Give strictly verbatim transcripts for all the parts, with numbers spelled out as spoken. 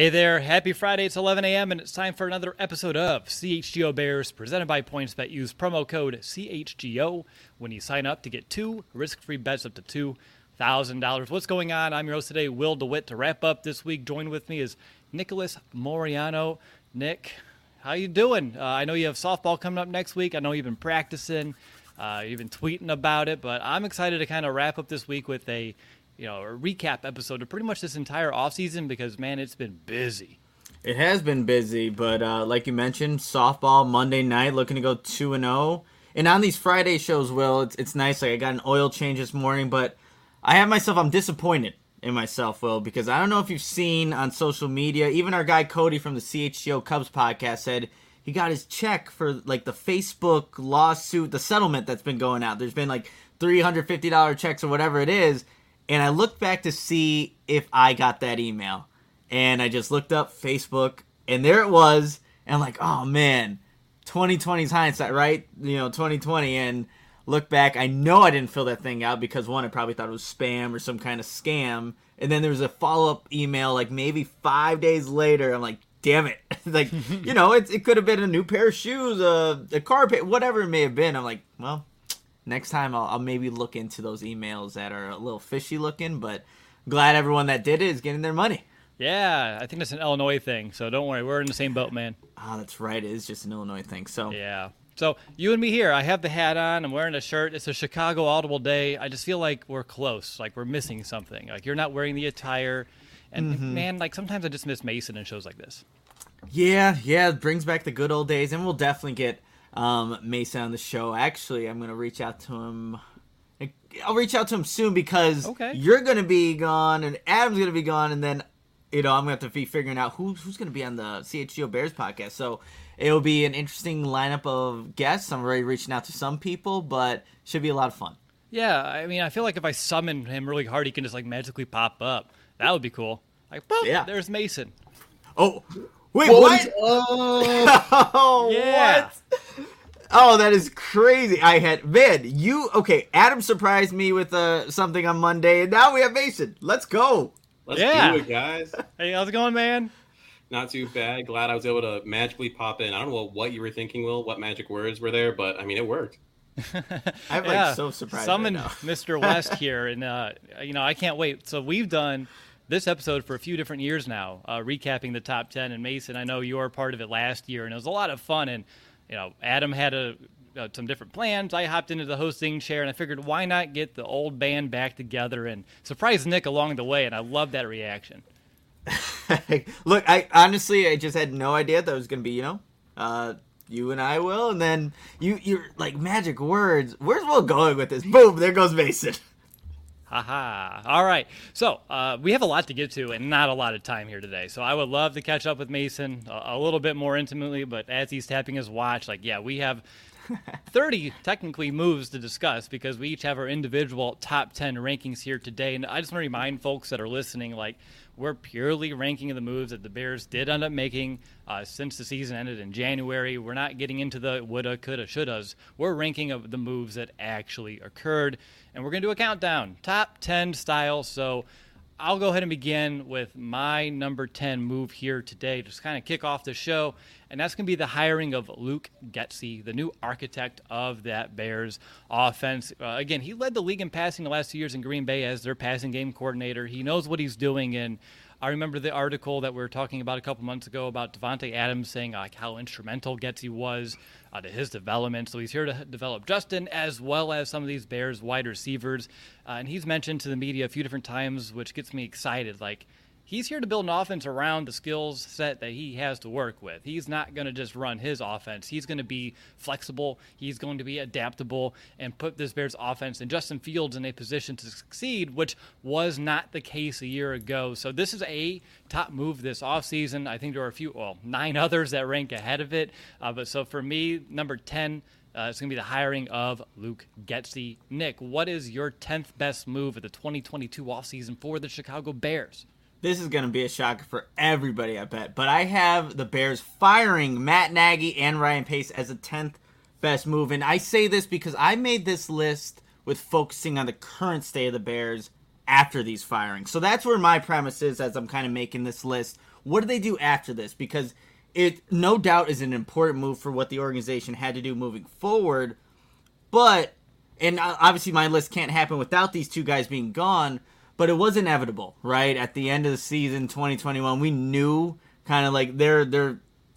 Hey there, happy Friday, it's eleven a.m. and it's time for another episode of C H G O Bears presented by PointsBet. Use promo code C H G O when you sign up to get two risk-free bets up to two thousand dollars. What's going on? I'm your host today, Will DeWitt. To wrap up this week, joined with me is Nicholas Moriano. Nick, how you doing? Uh, I know you have softball coming up next week. I know you've been practicing, uh, you've been tweeting about it, but I'm excited to kind of wrap up this week with a you know, a recap episode of pretty much this entire offseason because, man, it's been busy. It has been busy, but uh, like you mentioned, softball Monday night, looking to go two and oh. And on these Friday shows, Will, it's, it's nice. Like, I got an oil change this morning, but I have myself, I'm disappointed in myself, Will, because I don't know if you've seen on social media, even our guy Cody from the C H G O Cubs podcast said he got his check for, like, the Facebook lawsuit, the settlement that's been going out. There's been, like, three hundred fifty dollars checks or whatever it is. And I looked back to see if I got that email. And I just looked up Facebook, and there it was. And I'm like, oh, man, twenty twenty's hindsight, right? You know, twenty twenty. And look back, I know I didn't fill that thing out because, one, I probably thought it was spam or some kind of scam. And then there was a follow-up email, like, maybe five days later. I'm like, damn it. like, you know, it, it could have been a new pair of shoes, a, a car pay, whatever it may have been. I'm like, well, next time I'll, I'll maybe look into those emails that are a little fishy looking, but glad everyone that did it is getting their money. Yeah, I think that's an Illinois thing, so don't worry. We're in the same boat, man. Oh, that's right. It is just an Illinois thing. So yeah. So you and me here. I have the hat on. I'm wearing a shirt. It's a Chicago Audible day. I just feel like we're close, like we're missing something. Like you're not wearing the attire. And, mm-hmm. man, like sometimes I just miss Mason in shows like this. Yeah, yeah, it brings back the good old days, and we'll definitely get Um, Mason on the show. Actually, I'm going to reach out to him. I'll reach out to him soon because okay. you're going to be gone and Adam's going to be gone. And then, you know, I'm going to have to be figuring out who, who's going to be on the C H G O Bears podcast. So it'll be an interesting lineup of guests. I'm already reaching out to some people, but should be a lot of fun. Yeah. I mean, I feel like if I summon him really hard, he can just like magically pop up. That would be cool. Like, boom, yeah. There's Mason. Oh, wait, what? what? Oh, oh yeah. What? Oh, that is crazy. I had, man, you, okay, Adam surprised me with uh, something on Monday, and now we have Mason. Let's go. Let's yeah. do it, guys. Hey, how's it going, man? Not too bad. Glad I was able to magically pop in. I don't know what you were thinking, Will, what magic words were there, but, I mean, it worked. I'm, yeah. like, so surprised Summon right now. Mister West here, and, uh, you know, I can't wait. So we've done this episode for a few different years now, uh, recapping the top ten. And Mason, I know you were part of it last year, and it was a lot of fun. And you know, Adam had a uh, some different plans. I hopped into the hosting chair, and I figured, why not get the old band back together and surprise Nick along the way? And I love that reaction. Look, I honestly, I just had no idea that it was going to be, you know, uh, you and I, Will, and then you, you're like magic words. Where's Will going with this? Boom! There goes Mason. Haha. All right. So uh, we have a lot to get to and not a lot of time here today. So I would love to catch up with Mason a, a little bit more intimately, but as he's tapping his watch, like, yeah, we have thirty technically moves to discuss because we each have our individual top ten rankings here today. And I just want to remind folks that are listening, like, we're purely ranking the moves that the Bears did end up making uh, since the season ended in January. We're not getting into the woulda, coulda, shouldas. We're ranking of the moves that actually occurred. And we're going to do a countdown, top ten style. So I'll go ahead and begin with my number ten move here today, just kind of kick off the show. And that's going to be the hiring of Luke Getsy, the new architect of that Bears offense. Uh, again, he led the league in passing the last two years in Green Bay as their passing game coordinator. He knows what he's doing. And I remember the article that we were talking about a couple months ago about Devontae Adams saying like how instrumental Getsy was uh, to his development. So he's here to develop Justin as well as some of these Bears wide receivers. Uh, and he's mentioned to the media a few different times, which gets me excited. Like, he's here to build an offense around the skills set that he has to work with. He's not going to just run his offense. He's going to be flexible. He's going to be adaptable and put this Bears offense and Justin Fields in a position to succeed, which was not the case a year ago. So this is a top move this offseason. I think there are a few, well, nine others that rank ahead of it. Uh, but so for me, number ten, Uh, it's going to be the hiring of Luke Getsy. Nick, what is your tenth best move of the twenty twenty-two offseason for the Chicago Bears? This is going to be a shocker for everybody, I bet. But I have the Bears firing Matt Nagy and Ryan Pace as a tenth best move. And I say this because I made this list with focusing on the current state of the Bears after these firings. So that's where my premise is as I'm kind of making this list. What do they do after this? Because it no doubt is an important move for what the organization had to do moving forward. But, and obviously my list can't happen without these two guys being gone, but it was inevitable, right? At the end of the season, twenty twenty-one, we knew kind of like their, their,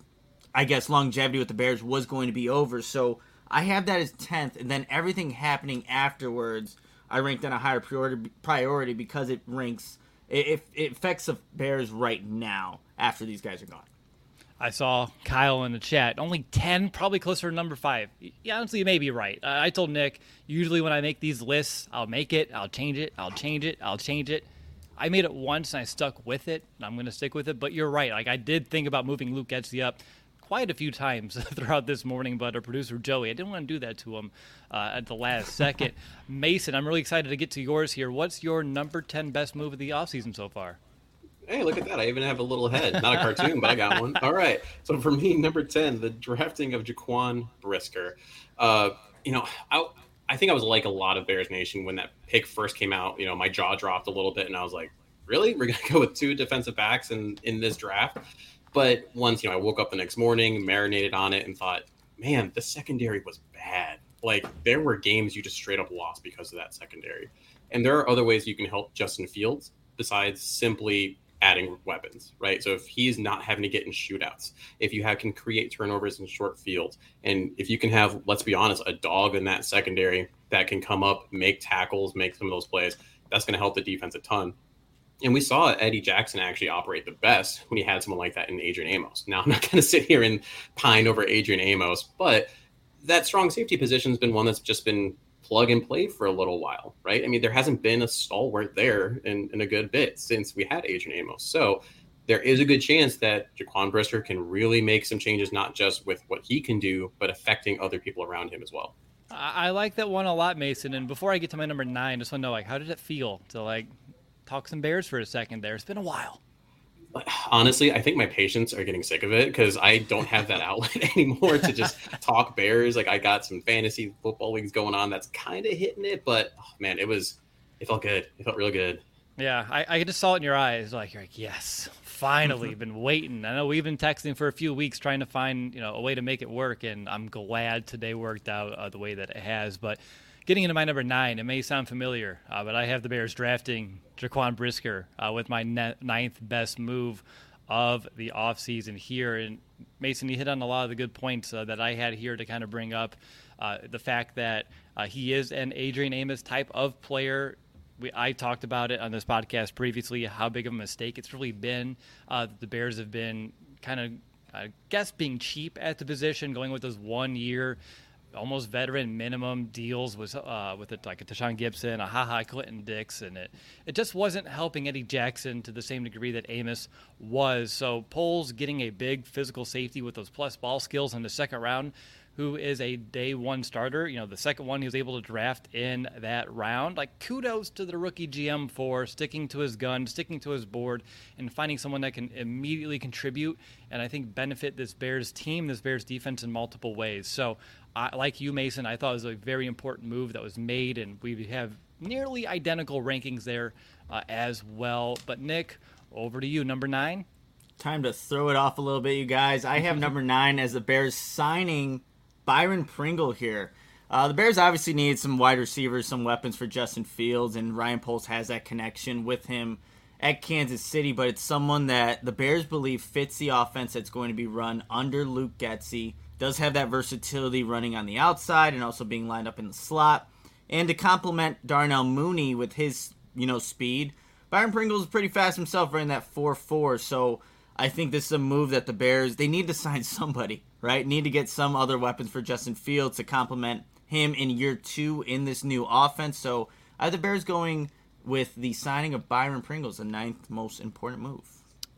I guess, longevity with the Bears was going to be over. So I have that as tenth, and then everything happening afterwards, I ranked on a higher priority, priority because it ranks, it, it affects the Bears right now after these guys are gone. I saw Kyle in the chat. Only ten, probably closer to number five. Yeah, honestly, you may be right. Uh, I told Nick, usually when I make these lists, I'll make it, I'll change it, I'll change it, I'll change it. I made it once and I stuck with it, and I'm going to stick with it. But you're right. Like, I did think about moving Luke Getsy up quite a few times throughout this morning, but our producer Joey, I didn't want to do that to him uh, at the last second. Mason, I'm really excited to get to yours here. What's your number ten best move of the offseason so far? Hey, look at that. I even have a little head. Not a cartoon, but I got one. All right. So for me, number ten, the drafting of Jaquan Brisker. Uh, you know, I, I think I was like a lot of Bears Nation when that pick first came out. You know, my jaw dropped a little bit, and I was like, really? We're going to go with two defensive backs in, in this draft? But once, you know, I woke up the next morning, marinated on it, and thought, man, the secondary was bad. Like, there were games you just straight up lost because of that secondary. And there are other ways you can help Justin Fields besides simply adding weapons, right? So if he's not having to get in shootouts, if you have, can create turnovers in short fields, and if you can have, let's be honest, a dog in that secondary that can come up, make tackles, make some of those plays, that's going to help the defense a ton. And we saw Eddie Jackson actually operate the best when he had someone like that in Adrian Amos. Now, I'm not going to sit here and pine over Adrian Amos, but that strong safety position has been one that's just been plug and play for a little while, right? I mean, there hasn't been a stalwart there in, in a good bit since we had Adrian Amos. So there is a good chance that Jaquan Brisker can really make some changes, not just with what he can do, but affecting other people around him as well. I, I like that one a lot, Mason. And before I get to my number nine, just want to know, like, how did it feel to, like, talk some Bears for a second there? It's been a while. Honestly, I think my patients are getting sick of it because I don't have that outlet anymore to just talk Bears. Like, I got some fantasy football leagues going on that's kind of hitting it, but oh, man, it was, it felt good. It felt real good. Yeah, I, I just saw it in your eyes. Like, you're like, yes, finally, been waiting. I know we've been texting for a few weeks trying to find, you know, a way to make it work, and I'm glad today worked out uh, the way that it has. But getting into my number nine, it may sound familiar, uh, but I have the Bears drafting Jaquan Brisker uh, with my ne- ninth best move of the offseason here. And Mason, you hit on a lot of the good points uh, that I had here to kind of bring up. Uh, the fact that uh, he is an Adrian Amos type of player. We, I talked about it on this podcast previously, how big of a mistake it's really been. Uh, the Bears have been kind of, I guess, being cheap at the position, going with those one-year almost veteran minimum deals with uh, with it, like a Tashawn Gibson, a Ha Ha Clinton Dix, and it it just wasn't helping Eddie Jackson to the same degree that Amos was. So Poles getting a big physical safety with those plus ball skills in the second round, who is a day one starter. You know, the second one he was able to draft in that round. Like, kudos to the rookie G M for sticking to his gun, sticking to his board, and finding someone that can immediately contribute and I think benefit this Bears team, this Bears defense in multiple ways. So, I, like you, Mason, I thought it was a very important move that was made, and we have nearly identical rankings there uh, as well. But, Nick, over to you, number nine. Time to throw it off a little bit, you guys. I have number nine as the Bears signing Byron Pringle here. Uh, the Bears obviously need some wide receivers, some weapons for Justin Fields, and Ryan Poles has that connection with him at Kansas City, but it's someone that the Bears believe fits the offense that's going to be run under Luke Getsy. Does have that versatility running on the outside and also being lined up in the slot. And to complement Darnell Mooney with his, you know, speed, Byron Pringle is pretty fast himself, running that four four, so I think this is a move that the Bears, they need to sign somebody, right? Need to get some other weapons for Justin Fields to complement him in year two in this new offense. So I have the Bears going with the signing of Byron Pringle, the ninth most important move.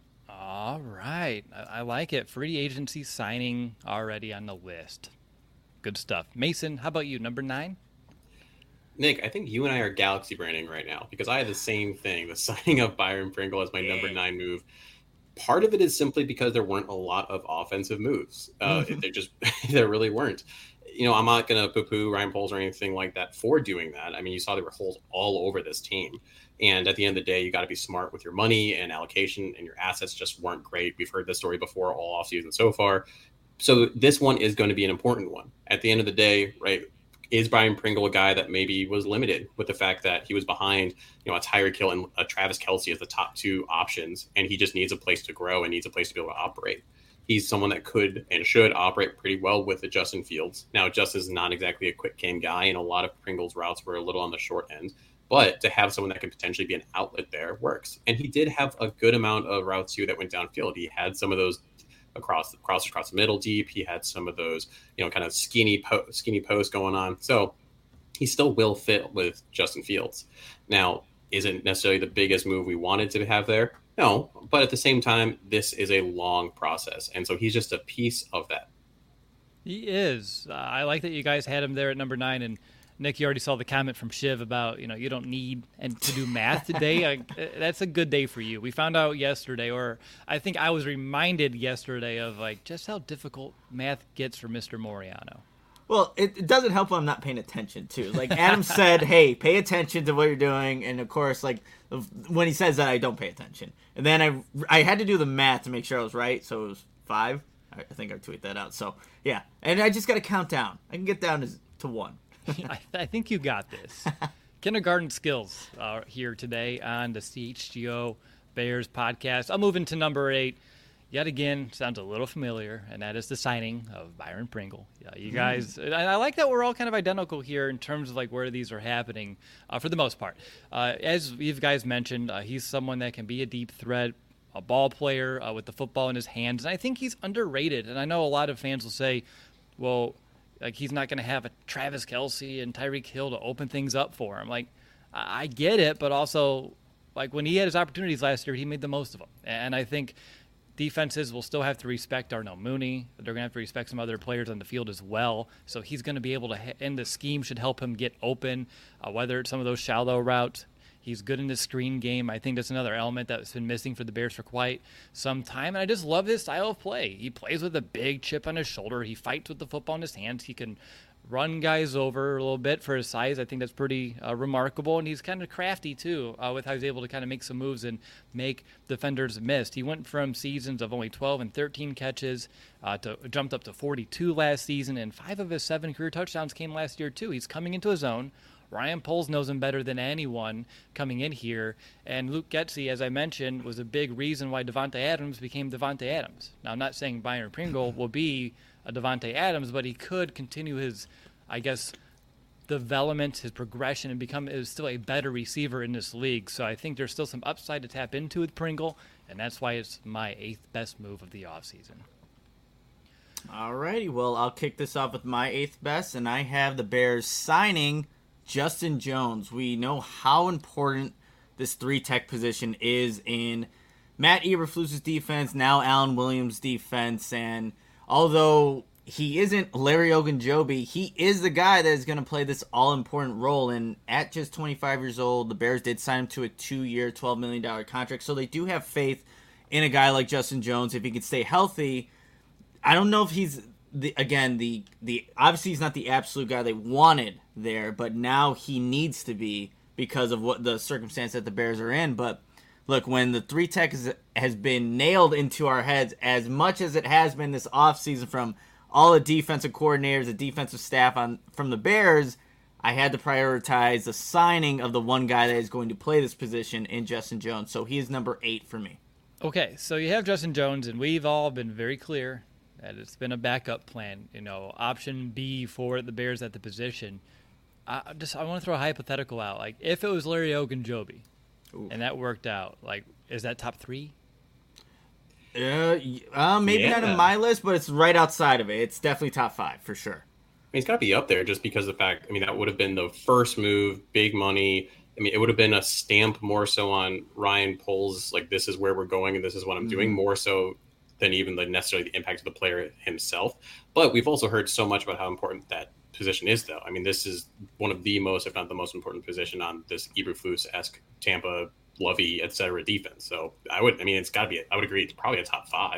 All right. I, I like it. Free agency signing already on the list. Good stuff. Mason, how about you? Number nine? Nick, I think you and I are galaxy branding right now because I had the same thing, the signing of Byron Pringle as my yeah. number nine move. Part of it is simply because there weren't a lot of offensive moves. Uh, mm-hmm. There just there really weren't. you know, I'm not going to poo-poo Ryan Poles or anything like that for doing that. I mean, you saw there were holes all over this team. And at the end of the day, you got to be smart with your money and allocation, and your assets just weren't great. We've heard this story before all offseason so far. So this one is going to be an important one. At the end of the day, right, is Byron Pringle a guy that maybe was limited with the fact that he was behind, you know, a Tyreek Hill and a Travis Kelce as the top two options, and he just needs a place to grow and needs a place to be able to operate. He's someone that could and should operate pretty well with the Justin Fields. Now, Justin is not exactly a quick game guy, and a lot of Pringle's routes were a little on the short end. But to have someone that could potentially be an outlet there works. And he did have a good amount of routes too that went downfield. He had some of those across across across the middle deep. He had some of those, you know, kind of skinny po- skinny posts going on. So he still will fit with Justin Fields. Now, isn't necessarily the biggest move we wanted to have there. No, but at the same time, this is a long process. And so he's just a piece of that. He is. Uh, I like that you guys had him there at number nine. And Nick, you already saw the comment from Shiv about, you know, you don't need and to do math today. I, that's a good day for you. We found out yesterday, or I think I was reminded yesterday of, like, just how difficult math gets for Mister Moriano. Well, it, it doesn't help when I'm not paying attention, too. Like Adam said, hey, pay attention to what you're doing. And, of course, like when he says that, I don't pay attention. And then I, I had to do the math to make sure I was right. So it was five. I think I tweeted that out. So, yeah. And I just got to count down. I can get down to, to one. I, I think you got this. Kindergarten skills are here today on the C H G O Bears podcast. I'll move into number eight. Yet again, sounds a little familiar, and that is the signing of Byron Pringle. Yeah, you guys, mm. I, I like that we're all kind of identical here in terms of like where these are happening uh, for the most part. Uh, as you guys mentioned, uh, he's someone that can be a deep threat, a ball player uh, with the football in his hands, and I think he's underrated. And I know a lot of fans will say, well, like he's not going to have a Travis Kelce and Tyreek Hill to open things up for him. Like, I, I get it, but also, like when he had his opportunities last year, he made the most of them. And I think defenses will still have to respect Darnell Mooney. They're going to have to respect some other players on the field as well. So he's going to be able to, and the scheme should help him get open, uh, whether it's some of those shallow routes. He's good in the screen game. I think that's another element that's been missing for the Bears for quite some time. And I just love his style of play. He plays with a big chip on his shoulder. He fights with the football in his hands. He can run guys over a little bit for his size. I think that's pretty uh, remarkable. And he's kind of crafty, too, uh, with how he's able to kind of make some moves and make defenders miss. He went from seasons of only twelve and thirteen catches uh, to jumped up to forty-two last season, and five of his seven career touchdowns came last year, too. He's coming into his own. Ryan Poles knows him better than anyone coming in here. And Luke Getsy, as I mentioned, was a big reason why Davante Adams became Davante Adams. Now, I'm not saying Byron Pringle will be a Davante Adams, but he could continue his, I guess, development, his progression, and become is still a better receiver in this league. So I think there's still some upside to tap into with Pringle, and that's why it's my eighth best move of the offseason. Alrighty, well, I'll kick this off with my eighth best, and I have the Bears signing Justin Jones. We know how important this three-tech position is in Matt Eberflus's defense, now Alan Williams' defense, and although he isn't Larry Ogunjobi, he is the guy that is going to play this all-important role, and at just twenty-five years old, the Bears did sign him to a two-year, twelve million dollars contract, so they do have faith in a guy like Justin Jones. If he can stay healthy, I don't know if he's The, again, the the obviously he's not the absolute guy they wanted there, but now he needs to be because of what the circumstance that the Bears are in. But look, when the three tech is, has been nailed into our heads as much as it has been this offseason from all the defensive coordinators, the defensive staff on from the Bears, I had to prioritize the signing of the one guy that is going to play this position in Justin Jones. So he is number eight for me. Okay, so you have Justin Jones, and we've all been very clear that it's been a backup plan, you know, option B for the Bears at the position. I just I want to throw a hypothetical out. Like, if it was Larry Ogunjobi and that worked out, like, is that top three? Uh, uh maybe yeah. not on my list, but it's right outside of it. It's definitely top five for sure. I mean, it's got to be up there just because of the fact, I mean, that would have been the first move, big money. I mean, it would have been a stamp more so on Ryan Poles, like, this is where we're going and this is what I'm mm-hmm. doing, more so than even the necessarily the impact of the player himself. But we've also heard so much about how important that position is, though. I mean, this is one of the most, if not the most important position on this Eberflus-esque Tampa, Lovey, et cetera defense. So I would, I mean, it's got to be, I would agree, it's probably a top five.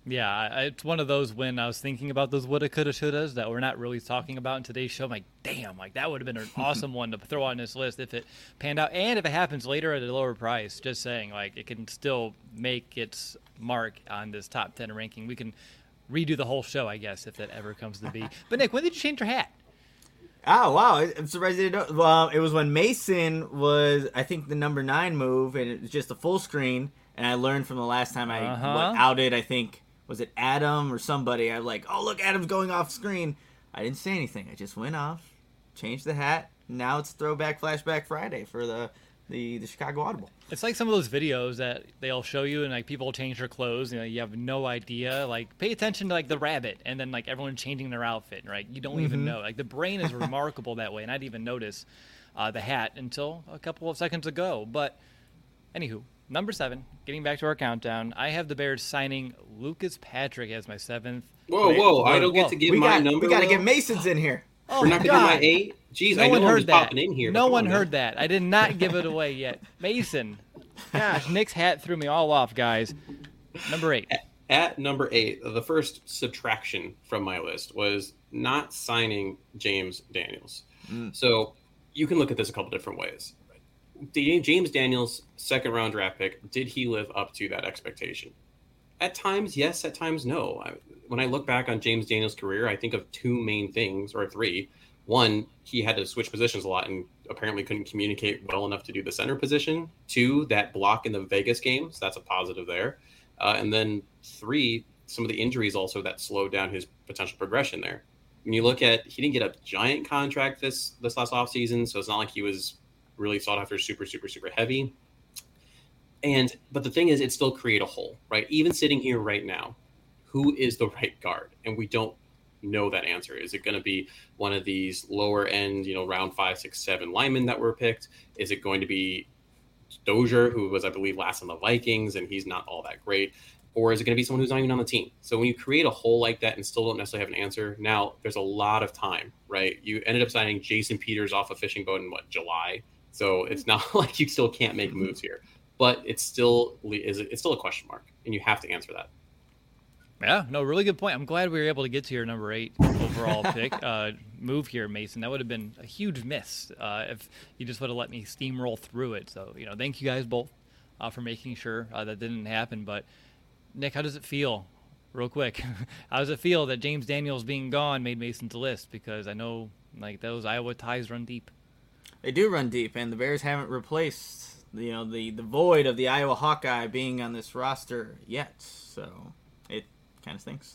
Yeah, I- it's one of those when I was thinking about those woulda, coulda, shouldas that we're not really talking about in today's show. I'm like, damn, like that would have been an awesome one to throw on this list if it panned out, and if it happens later at a lower price. Just saying, like it can still make its mark on this top ten ranking. We can redo the whole show, I guess, if that ever comes to be. But Nick, when did you change your hat? Oh wow! I'm surprised you didn't know. Well, it was when Mason was, I think, the number nine move, and it was just a full screen. And I learned from the last time I Uh-huh. what, outed, I think, was it Adam or somebody? I was like, oh look, Adam's going off screen. I didn't say anything. I just went off, changed the hat. Now it's Throwback Flashback Friday for the the, the Chicago Audible. It's like some of those videos that they'll show you, and like people change their clothes. You know, you have no idea. Like, pay attention to like the rabbit, and then like everyone changing their outfit. Right? You don't even know. Like the brain is remarkable that way, and I didn't even notice uh, the hat until a couple of seconds ago. But anywho, number seven. Getting back to our countdown, I have the Bears signing Lucas Patrick as my seventh. Whoa, Wait, whoa! I whoa, don't whoa. get to give We my got number. we got to Will? get Mason's in here. Oh We're my not gonna do my God. eight. Jeez, No I know one I'm heard just that. popping in here. but No come one on now. heard that. I did not give it away yet. Mason. Gosh, Nick's hat threw me all off, guys. Number eight. At number eight, the first subtraction from my list was not signing James Daniels. Mm. So you can look at this a couple different ways. D- James Daniels, second round draft pick, did he live up to that expectation? At times, yes. At times, no. I, when I look back on James Daniels' career, I think of two main things, or three. One, he had to switch positions a lot and apparently couldn't communicate well enough to do the center position. Two, that block in the Vegas game, so that's a positive there. Uh, and then three, some of the injuries also that slowed down his potential progression there. When you look at, he didn't get a giant contract this this last offseason, so it's not like he was really sought after super, super, super heavy. And but the thing is, it still create a hole, right? Even sitting here right now, who is the right guard? And we don't know that answer. Is it going to be one of these lower end, you know, round five, six, seven linemen that were picked? Is it going to be Dozier, who was, I believe, last on the Vikings, and he's not all that great? Or is it going to be someone who's not even on the team? So when you create a hole like that and still don't necessarily have an answer, now there's a lot of time, right? You ended up signing Jason Peters off a fishing boat in what, July? So it's not like you still can't make moves here, but it's still is it's still a question mark, and you have to answer that. Yeah, no, really good point. I'm glad we were able to get to your number eight overall pick uh, move here, Mason. That would have been a huge miss uh, if you just would have let me steamroll through it. So, you know, thank you guys both uh, for making sure uh, that didn't happen. But, Nick, how does it feel, real quick, how does it feel that James Daniels being gone made Mason's list? Because I know, like, those Iowa ties run deep. They do run deep, and the Bears haven't replaced, you know, the, the void of the Iowa Hawkeye being on this roster yet. So it kind of stinks.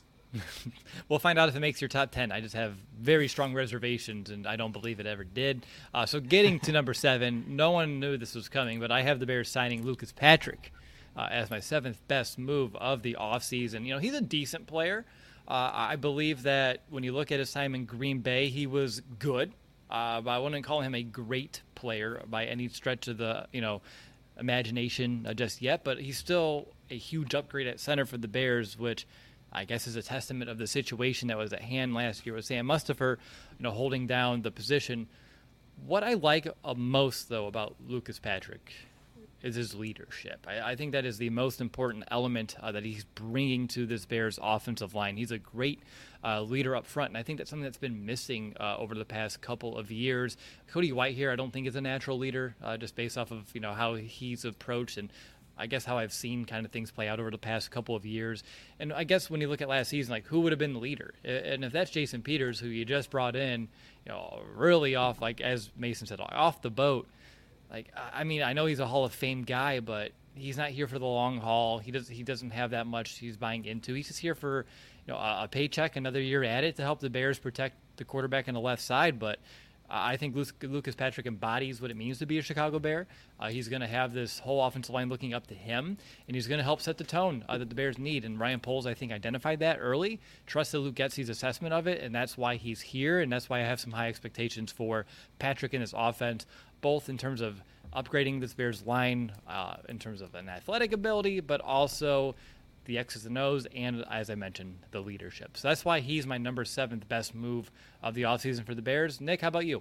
We'll find out if it makes your top ten. I just have very strong reservations, and I don't believe it ever did. Uh, so getting to number seven, no one knew this was coming, but I have the Bears signing Lucas Patrick uh, as my seventh best move of the offseason. You know, he's a decent player. Uh, I believe that when you look at his time in Green Bay, he was good. Uh, but I wouldn't call him a great player by any stretch of the, you know, imagination uh, just yet. But he's still a huge upgrade at center for the Bears, which I guess is a testament of the situation that was at hand last year with Sam Mustipher, you know, holding down the position. What I like uh, most, though, about Lucas Patrick is his leadership. I, I think that is the most important element uh, that he's bringing to this Bears offensive line. He's a great uh, leader up front, and I think that's something that's been missing uh, over the past couple of years. Cody White here, I don't think is a natural leader, uh, just based off of, you know, how he's approached and I guess how I've seen kind of things play out over the past couple of years. And I guess when you look at last season, like, who would have been the leader? And if that's Jason Peters, who you just brought in, you know, really off, like as Mason said, off the boat. Like, I mean, I know he's a Hall of Fame guy, but he's not here for the long haul. He does he doesn't have that much he's buying into. He's just here for, you know, a, a paycheck, another year at it to help the Bears protect the quarterback on the left side. But I think Lucas Patrick embodies what it means to be a Chicago Bear. Uh, he's going to have this whole offensive line looking up to him, and he's going to help set the tone uh, that the Bears need. And Ryan Poles, I think, identified that early, trusted Luke Getsy's assessment of it, and that's why he's here, and that's why I have some high expectations for Patrick and his offense, both in terms of upgrading this Bears line uh, in terms of an athletic ability, but also the X's and O's, and as I mentioned, the leadership. So that's why he's my number seventh best move of the offseason for the Bears. Nick, how about you?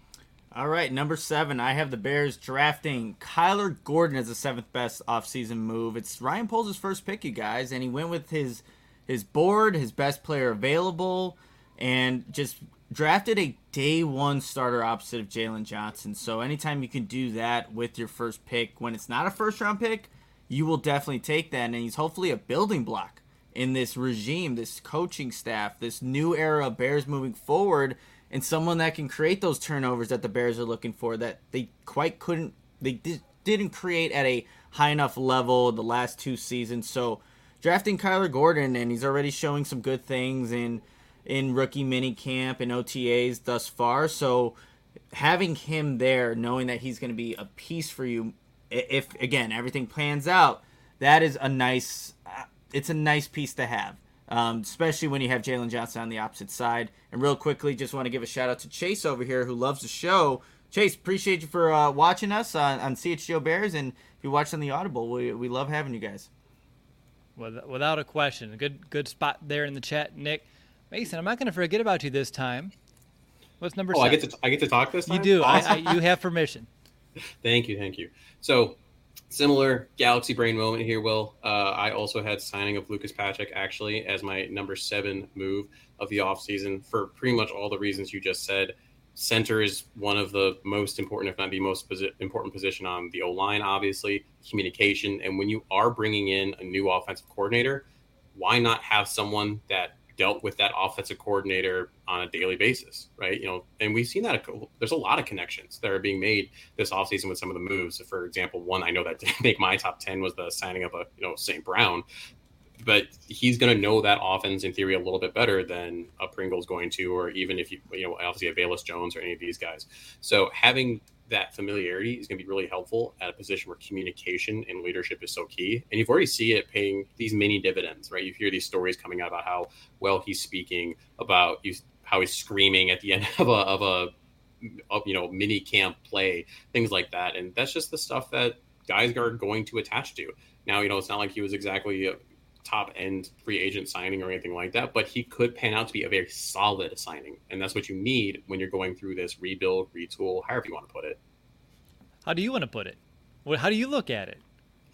All right, number seven, I have the Bears drafting Kyler Gordon as the seventh best offseason move. It's Ryan Poles' first pick, you guys, and he went with his his board, his best player available, and just drafted a day one starter opposite of Jalen Johnson. So anytime you can do that with your first pick when it's not a first round pick, you will definitely take that. And he's hopefully a building block in this regime, this coaching staff, this new era of Bears moving forward, and someone that can create those turnovers that the Bears are looking for that they quite couldn't, they di- didn't create at a high enough level the last two seasons. So drafting Kyler Gordon, and he's already showing some good things in in rookie mini camp and O T As thus far. So having him there, knowing that he's going to be a piece for you, if again everything plans out, that is a nice. It's a nice piece to have, um, especially when you have Jalen Johnson on the opposite side. And real quickly, just want to give a shout out to Chase over here who loves the show. Chase, appreciate you for uh, watching us on, on C H G O Bears, and if you watch on the Audible, we we love having you guys. Without a question, a good good spot there in the chat, Nick. Mason, I'm not going to forget about you this time. What's number oh, seven? I get to I get to talk this time? You do. Awesome. I, I, you have permission. Thank you, thank you. So, similar Galaxy Brain moment here, Will. Uh, I also had signing of Lucas Patrick, actually, as my number seven move of the offseason for pretty much all the reasons you just said. Center is one of the most important, if not the most posi- important position on the O-line, obviously. Communication. And when you are bringing in a new offensive coordinator, why not have someone that dealt with that offensive coordinator on a daily basis, right? You know, and we've seen that there's a lot of connections that are being made this offseason with some of the moves. So for example, one I know that didn't make my top ten was the signing of a, you know, Saint Brown, but he's going to know that offense in theory a little bit better than a Pringle's going to, or even if you, you know, obviously a Velus Jones or any of these guys. So having that familiarity is going to be really helpful at a position where communication and leadership is so key. And you've already see it paying these mini dividends, right? You hear these stories coming out about how well he's speaking, about you, how he's screaming at the end of a, of a, of, you know, mini camp play, things like that. And that's just the stuff that guys are going to attach to. Now, you know, it's not like he was exactly a top end free agent signing or anything like that, but he could pan out to be a very solid signing. And that's what you need when you're going through this rebuild, retool, however you want to put it. How do you want to put it? How do you look at it?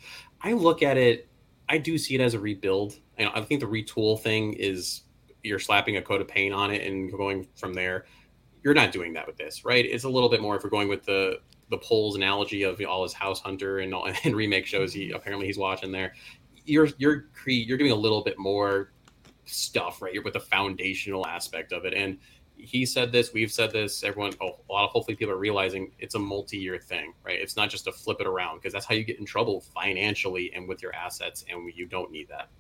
I look at it, I do see it as a rebuild. And I think the retool thing is you're slapping a coat of paint on it and going from there. You're not doing that with this, right? It's a little bit more if we're going with the the Poles analogy of all his House Hunter and all and remake shows he apparently he's watching there. You're you're cre- you're doing a little bit more stuff, right? You're with the foundational aspect of it. And he said this, we've said this, everyone, oh, a lot of hopefully people are realizing it's a multi-year thing, right? It's not just to flip it around, because that's how you get in trouble financially and with your assets, and you don't need that.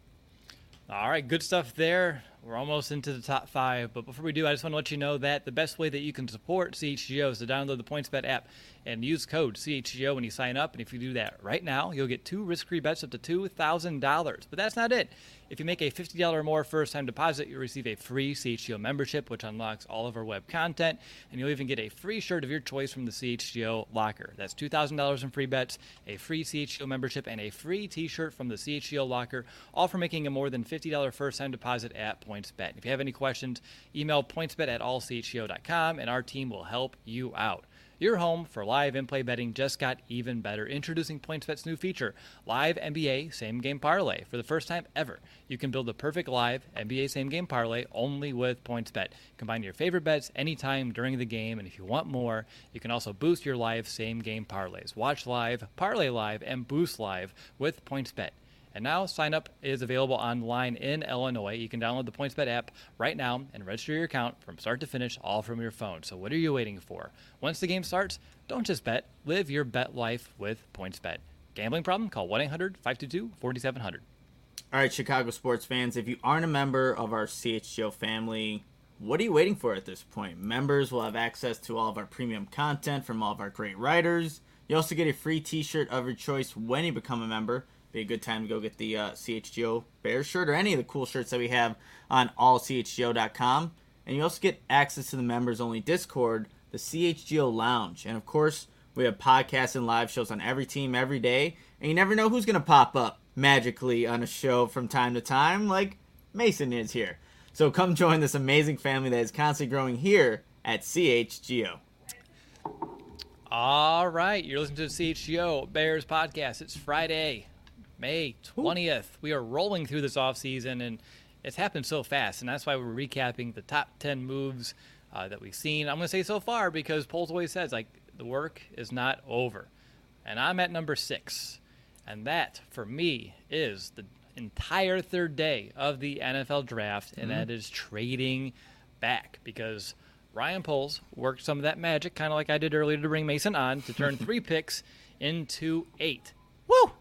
All right, good stuff there. We're almost into the top five, but before we do, I just want to let you know that the best way that you can support C H G O is to download the PointsBet app and use code C H G O when you sign up. And if you do that right now, you'll get two risk-free bets up to two thousand dollars. But that's not it. If you make a fifty dollars or more first-time deposit, you'll receive a free C H G O membership, which unlocks all of our web content, and you'll even get a free shirt of your choice from the C H G O locker. That's two thousand dollars in free bets, a free C H G O membership, and a free t-shirt from the C H G O locker, all for making a more than fifty dollars first-time deposit at PointsBet. If you have any questions, email pointsbet at all c h g o dot com, and our team will help you out. Your home for live in-play betting just got even better. Introducing PointsBet's new feature, Live N B A Same Game Parlay. For the first time ever, you can build a perfect live N B A Same Game Parlay only with PointsBet. Combine your favorite bets anytime during the game, and if you want more, you can also boost your live Same Game Parlays. Watch live, parlay live, and boost live with PointsBet. And now, sign up is available online in Illinois. You can download the PointsBet app right now and register your account from start to finish, all from your phone. So what are you waiting for? Once the game starts, don't just bet. Live your bet life with PointsBet. Gambling problem? Call one eight hundred five two two four seven zero zero. All right, Chicago sports fans, if you aren't a member of our C H G O family, what are you waiting for at this point? Members will have access to all of our premium content from all of our great writers. You also get a free t-shirt of your choice when you become a member. Be a good time to go get the uh, C H G O Bears shirt or any of the cool shirts that we have on all c h g o dot com. And you also get access to the members-only Discord, the C H G O Lounge. And, of course, we have podcasts and live shows on every team every day. And you never know who's going to pop up magically on a show from time to time, like Mason is here. So come join this amazing family that is constantly growing here at C H G O. All right, you're listening to the C H G O Bears podcast. It's Friday, May twentieth. We are rolling through this offseason, and it's happened so fast, and that's why we're recapping the top ten moves uh, that we've seen. I'm going to say so far because Poles always says, like, the work is not over. And I'm at number six. And that, for me, is the entire third day of the N F L draft, and mm-hmm. that is trading back because Ryan Poles worked some of that magic, kind of like I did earlier to bring Mason on, to turn three picks into eight. Woo!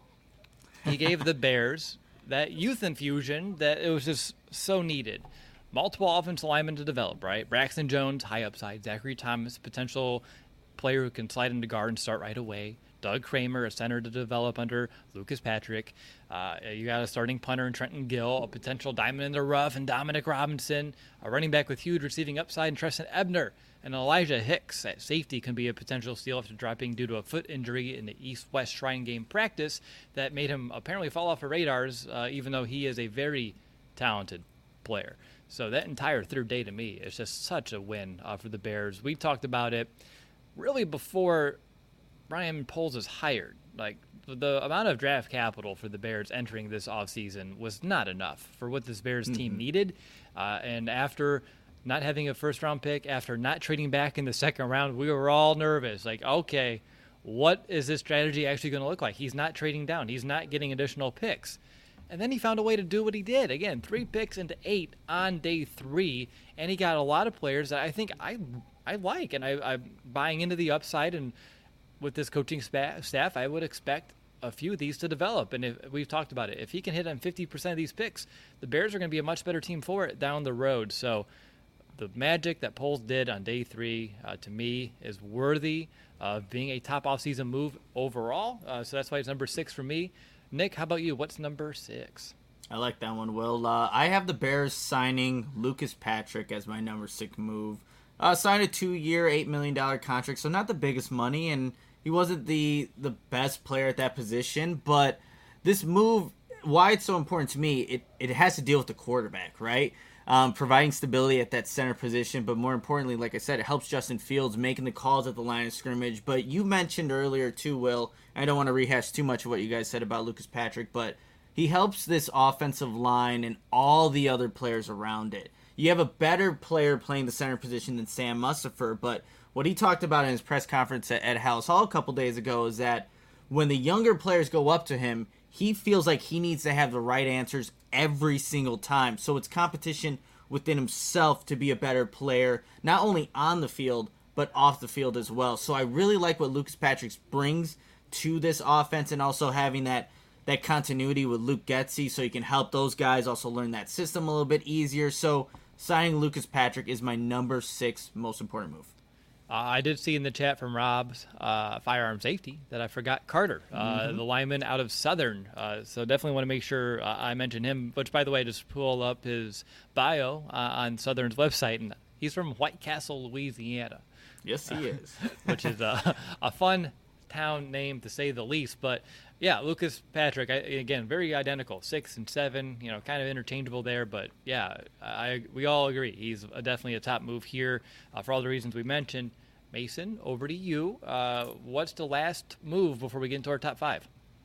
He gave the Bears that youth infusion that it was just so needed. Multiple offensive linemen to develop, right? Braxton Jones, high upside. Zachary Thomas, potential player who can slide into guard and start right away. Doug Kramer, a center to develop under Lucas Patrick. Uh, you got a starting punter in Trenton Gill, a potential diamond in the rough and Dominic Robinson, a running back with huge receiving upside in Treston Ebner, and Elijah Hicks at safety can be a potential steal after dropping due to a foot injury in the East-West Shrine game practice that made him apparently fall off the radars, uh, even though he is a very talented player. So that entire third day to me is just such a win uh, for the Bears. We talked about it really before Ryan Poles is hired. Like, the amount of draft capital for the Bears entering this offseason was not enough for what this Bears mm-hmm. team needed. Uh, and after not having a first-round pick, after not trading back in the second round, we were all nervous. Like, okay, what is this strategy actually going to look like? He's not trading down. He's not getting additional picks. And then he found a way to do what he did. Again, three picks into eight on day three, and he got a lot of players that I think I I like, and I, I'm buying into the upside. And with this coaching spa- staff, I would expect a few of these to develop. And if we've talked about it, if he can hit on fifty percent of these picks, the Bears are going to be a much better team for it down the road. So the magic that Poles did on day three, uh, to me, is worthy of being a top offseason move overall. Uh, so that's why it's number six for me. Nick, how about you? What's number six? I like that one, Will. Uh, I have the Bears signing Lucas Patrick as my number six move. Uh, signed a two-year, eight million dollars contract, so not the biggest money, and he wasn't the the best player at that position. But this move, why it's so important to me, it, it has to deal with the quarterback, right? Um, providing stability at that center position, but more importantly, like I said, it helps Justin Fields making the calls at the line of scrimmage. But you mentioned earlier too, Will, I don't want to rehash too much of what you guys said about Lucas Patrick, but he helps this offensive line and all the other players around it. You have a better player playing the center position than Sam Mustipher, but what he talked about in his press conference at, at House Hall a couple days ago is that when the younger players go up to him, he feels like he needs to have the right answers every single time. So it's competition within himself to be a better player, not only on the field, but off the field as well. So I really like what Lucas Patrick brings to this offense, and also having that that continuity with Luke Getsy so he can help those guys also learn that system a little bit easier. So signing Lucas Patrick is my number six most important move. Uh, I did see in the chat from Rob's uh, firearm safety that I forgot Carter, uh, mm-hmm. the lineman out of Southern. Uh, so definitely want to make sure uh, I mention him, which, by the way, just pull up his bio uh, on Southern's website. And he's from White Castle, Louisiana. Yes, he is. Which is a, a fun town name, to say the least. But, yeah, Lucas Patrick, I, again, very identical. Six and seven, you know, kind of interchangeable there. But, yeah, I we all agree. He's a, definitely a top move here uh, for all the reasons we mentioned. Mason, over to you. Uh, what's the last move before we get into our top five?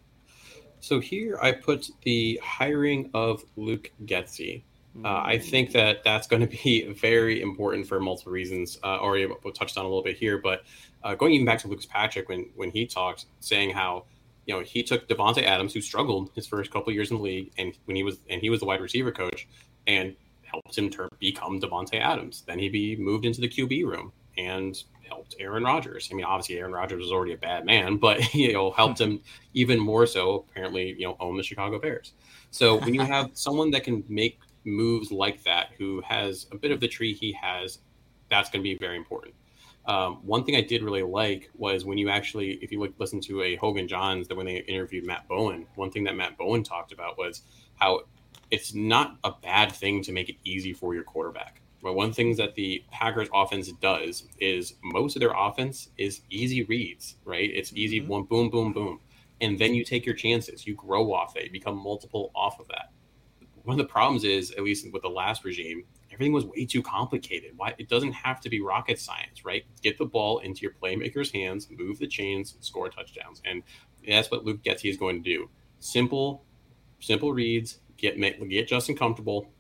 So here I put the hiring of Luke Getsy. Uh, I think that that's going to be very important for multiple reasons. Uh, already touched on a little bit here, but uh, going even back to Lucas Patrick when when he talked, saying how you know he took Davante Adams, who struggled his first couple of years in the league, and when he was and he was the wide receiver coach, and helped him turn become Davante Adams. Then he be moved into the Q B room and helped Aaron Rodgers. I mean, obviously Aaron Rodgers was already a bad man, but you know helped him even more so. Apparently, you know, own the Chicago Bears. So when you have someone that can make moves like that, who has a bit of the tree he has, that's going to be very important. Um, one thing I did really like was when you actually, if you look, listen to a Hogan Johns, that when they interviewed Matt Bowen, one thing that Matt Bowen talked about was how it's not a bad thing to make it easy for your quarterback. But one thing that the Packers offense does is most of their offense is easy reads, right? It's easy, mm-hmm. one boom, boom, boom. And then you take your chances. You grow off it. You become multiple off of that. One of the problems is, at least with the last regime, everything was way too complicated. Why? It doesn't have to be rocket science, right? Get the ball into your playmakers' hands, move the chains, score touchdowns. And that's what Luke Getsy is going to do. Simple, simple reads, get get Justin comfortable,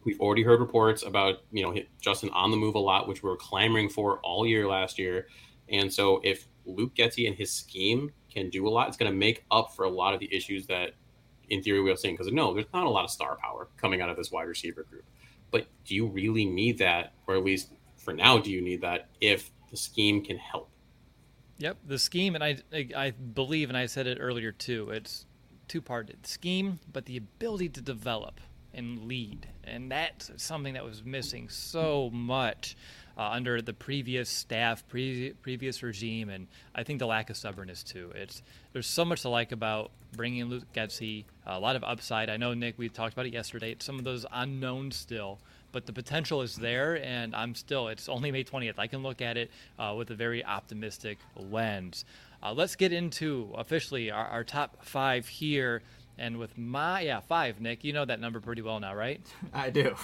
We've already heard reports about, you know, Justin on the move a lot, which we were clamoring for all year last year. And so if Luke Getsy and his scheme can do a lot, it's going to make up for a lot of the issues that, in theory, we'll see. Because no, there's not a lot of star power coming out of this wide receiver group. But do you really need that? Or at least for now, do you need that if the scheme can help? Yep, the scheme, and I, I, I believe, and I said it earlier too, it's two-parted. Scheme, but the ability to develop and lead. And that's something that was missing so much uh, under the previous staff, pre- previous regime, and I think the lack of stubbornness too. It's There's so much to like about bringing in Luke Getsy, a lot of upside. I know, Nick, we talked about it yesterday. It's some of those unknowns still, but the potential is there, and I'm still, it's only May twentieth. I can look at it uh, with a very optimistic lens. Uh, let's get into officially our, our top five here. And with my, yeah, five, Nick, you know that number pretty well now, right? I do.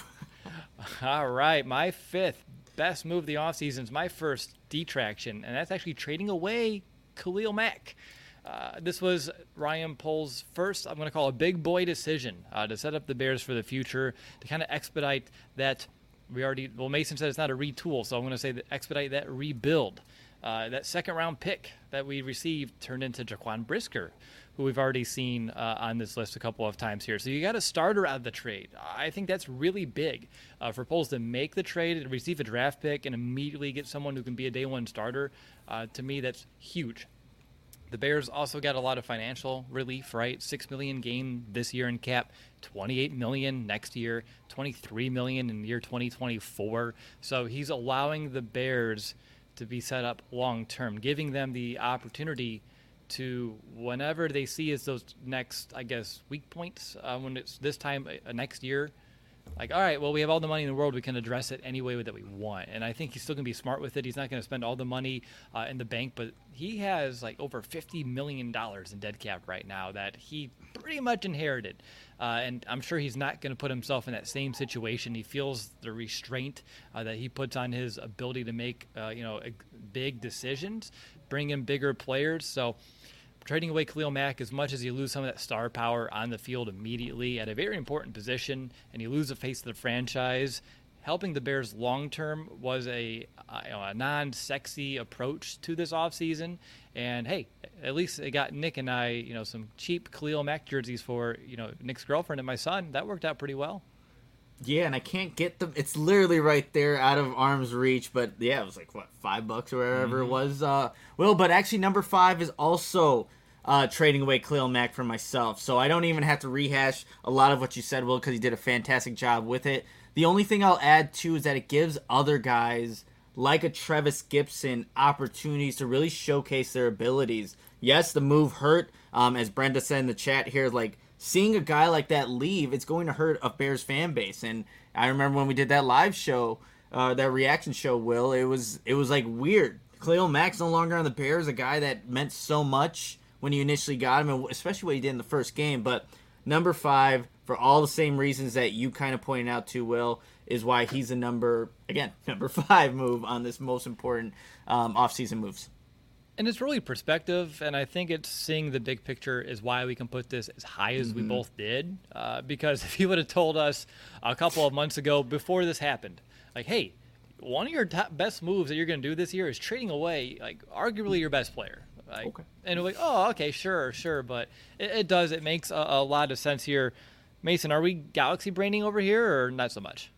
All right, my fifth best move of the offseason is my first detraction, and that's actually trading away Khalil Mack. Uh, this was Ryan Poles' first, I'm going to call a big boy decision uh, to set up the Bears for the future, to kind of expedite that. We already, well, Mason said it's not a retool, so I'm going to say that expedite that rebuild. Uh, that second round pick that we received turned into Jaquan Brisker, who we've already seen uh, on this list a couple of times here. So you got a starter out of the trade. I think that's really big uh, for Poles to make the trade, receive a draft pick, and immediately get someone who can be a day one starter. Uh, to me, that's huge. The Bears also got a lot of financial relief, right? Six million dollars gain this year in cap, twenty-eight million dollars next year, twenty-three million dollars in the year twenty twenty-four. So he's allowing the Bears to be set up long term, giving them the opportunity to, whenever they see as those next, I guess, weak points, uh, when it's this time uh, next year, like, all right, well, we have all the money in the world. We can address it any way that we want. And I think he's still going to be smart with it. He's not going to spend all the money uh, in the bank, but he has like over fifty million dollars in dead cap right now that he pretty much inherited. Uh, and I'm sure he's not going to put himself in that same situation. He feels the restraint uh, that he puts on his ability to make, uh, you know, big decisions, bring in bigger players. So trading away Khalil Mack, as much as you lose some of that star power on the field immediately at a very important position, and you lose the face of the franchise, helping the Bears long-term was a, uh, you know, a non-sexy approach to this offseason. And, hey, at least it got Nick and I, you know, some cheap Khalil Mack jerseys for, you know, Nick's girlfriend and my son. That worked out pretty well. Yeah, and I can't get them. It's literally right there out of arm's reach. But, yeah, it was like, what, five bucks or whatever mm-hmm. it was. Uh, well, but actually number five is also uh, trading away Khalil Mack for myself. So I don't even have to rehash a lot of what you said, Will, because he did a fantastic job with it. The only thing I'll add, too, is that it gives other guys like a Trevis Gipson opportunities to really showcase their abilities. Yes, the move hurt. Um, as Brenda said in the chat here, like, seeing a guy like that leave, it's going to hurt a Bears fan base. And I remember when we did that live show, uh, that reaction show, Will, it was it was like weird. Khalil Mack's no longer on the Bears, a guy that meant so much when you initially got him, and especially what he did in the first game. But number five, for all the same reasons that you kind of pointed out to, Will, is why he's a number, again, number five move on this most important um, offseason moves. And it's really perspective, and I think it's seeing the big picture is why we can put this as high as mm-hmm. we both did. Uh, because if you would have told us a couple of months ago before this happened, like, hey, one of your top best moves that you're going to do this year is trading away, like, arguably your best player. Like, okay. And we're like, oh, okay, sure, sure. But it, it does. It makes a, a lot of sense here. Mason, are we galaxy braining over here or not so much?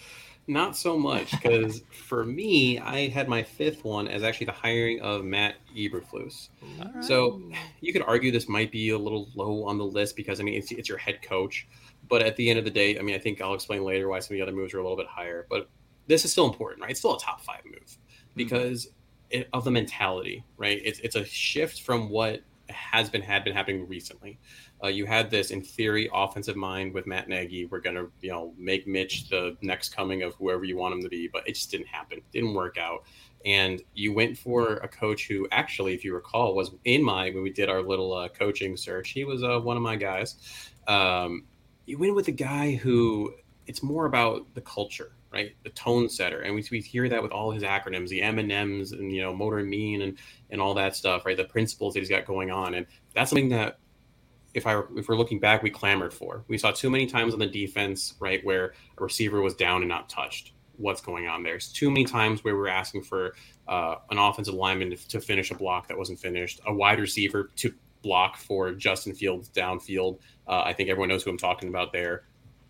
Not so much, because for me, I had my fifth one as actually the hiring of Matt Eberflus. Right. So you could argue this might be a little low on the list because, I mean, it's, it's your head coach. But at the end of the day, I mean, I think I'll explain later why some of the other moves are a little bit higher. But this is still important, right? It's still a top five move because mm-hmm. it, of the mentality, right? It's it's a shift from what has been had been happening recently. Uh, you had this, in theory, offensive mind with Matt Nagy. We're going to, you know, make Mitch the next coming of whoever you want him to be, but it just didn't happen. Didn't work out. And you went for a coach who actually, if you recall, was in my, when we did our little uh, coaching search, he was uh, one of my guys. Um, you went with a guy who, it's more about the culture, right? The tone setter. And we, we hear that with all his acronyms, the M and M's and, you know, Motor and Mean and, and all that stuff, right? The principles that he's got going on. And that's something that if I if we're looking back, we clamored for. We saw too many times on the defense, right, where a receiver was down and not touched. What's going on there? It's too many times where we were asking for uh, an offensive lineman to, to finish a block that wasn't finished, a wide receiver to block for Justin Fields downfield. Uh, I think everyone knows who I'm talking about there.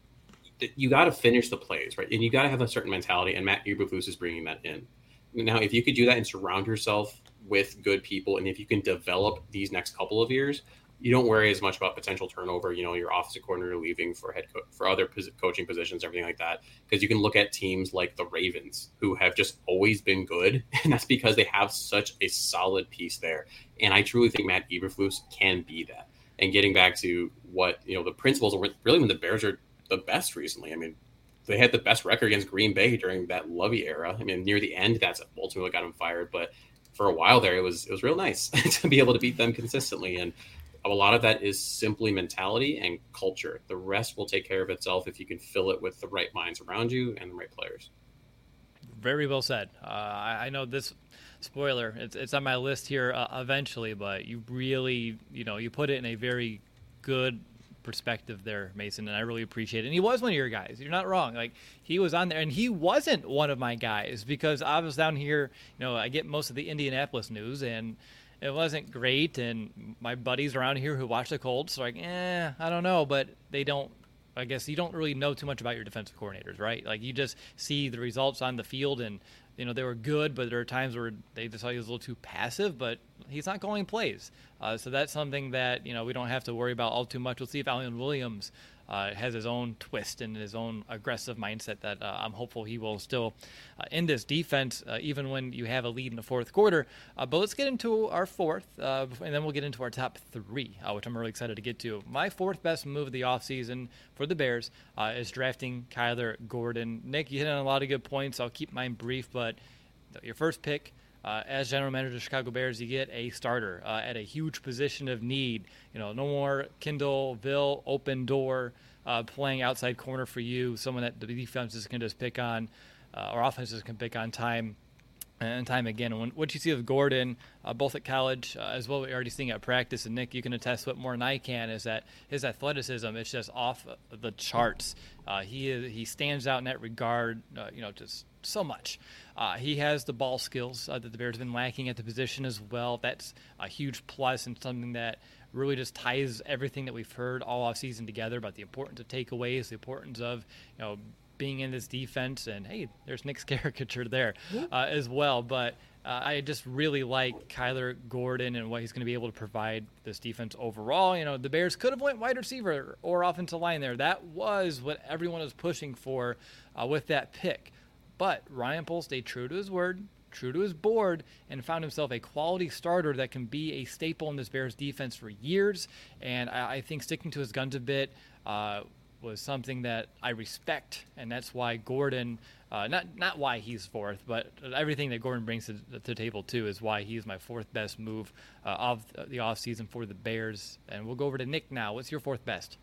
You got to finish the plays, right? And you got to have a certain mentality, and Matt Eberflus is bringing that in. Now, if you could do that and surround yourself with good people, and if you can develop these next couple of years, you don't worry as much about potential turnover. You know, your offensive coordinator leaving for head co- for other pos- coaching positions, everything like that. Because you can look at teams like the Ravens, who have just always been good, and that's because they have such a solid piece there. And I truly think Matt Eberflus can be that. And getting back to what, you know, the principles are really when the Bears are the best recently. I mean, they had the best record against Green Bay during that Lovey era. I mean, near the end, that's ultimately what got him fired. But for a while there, it was it was real nice to be able to beat them consistently. And a lot of that is simply mentality and culture. The rest will take care of itself if you can fill it with the right minds around you and the right players. Very well said. Uh, I, I know this spoiler. It's it's on my list here uh, eventually, but you really, you know, you put it in a very good perspective there, Mason, and I really appreciate it. And he was one of your guys. You're not wrong. Like, he was on there, and he wasn't one of my guys because I was down here. You know, I get most of the Indianapolis news, and it wasn't great. And my buddies around here who watch the Colts are like, eh, I don't know, but they don't. I guess you don't really know too much about your defensive coordinators, right? Like, you just see the results on the field, and you know, they were good, but there are times where they just thought he was a little too passive, but he's not calling plays. Uh, so that's something that, you know, we don't have to worry about all too much. We'll see if Alan Williams uh, has his own twist and his own aggressive mindset that uh, I'm hopeful he will still uh, in this defense, uh, even when you have a lead in the fourth quarter. Uh, but let's get into our fourth, uh, and then we'll get into our top three, uh, which I'm really excited to get to. My fourth best move of the offseason for the Bears uh, is drafting Kyler Gordon. Nick, you hit on a lot of good points. I'll keep mine brief, but your first pick, Uh, as general manager of the Chicago Bears, you get a starter uh, at a huge position of need. You know, no more Kindle, Ville, open door, uh, playing outside corner for you, someone that the defenses can just pick on, uh, or offenses can pick on time and time again. And when, what you see of Gordon, uh, both at college uh, as well, we're already seeing at practice, and Nick, you can attest what more than I can, is that his athleticism is just off the charts. Uh, he is, he stands out in that regard, uh, you know, just so much. Uh, he has the ball skills uh, that the Bears have been lacking at the position as well. That's a huge plus and something that really just ties everything that we've heard all offseason together about the importance of takeaways, the importance of, you know, being in this defense. And, hey, there's Nick's caricature there uh, as well. But uh, I just really like Kyler Gordon and what he's going to be able to provide this defense overall. You know, the Bears could have went wide receiver or offensive line there. That was what everyone was pushing for uh, with that pick. But Ryan Poles stayed true to his word, true to his board, and found himself a quality starter that can be a staple in this Bears defense for years. And I, I think sticking to his guns a bit uh, was something that I respect, and that's why Gordon, uh, not not why he's fourth, but everything that Gordon brings to, to the table too is why he's my fourth best move uh, of the offseason for the Bears. And we'll go over to Nick now. What's your fourth best?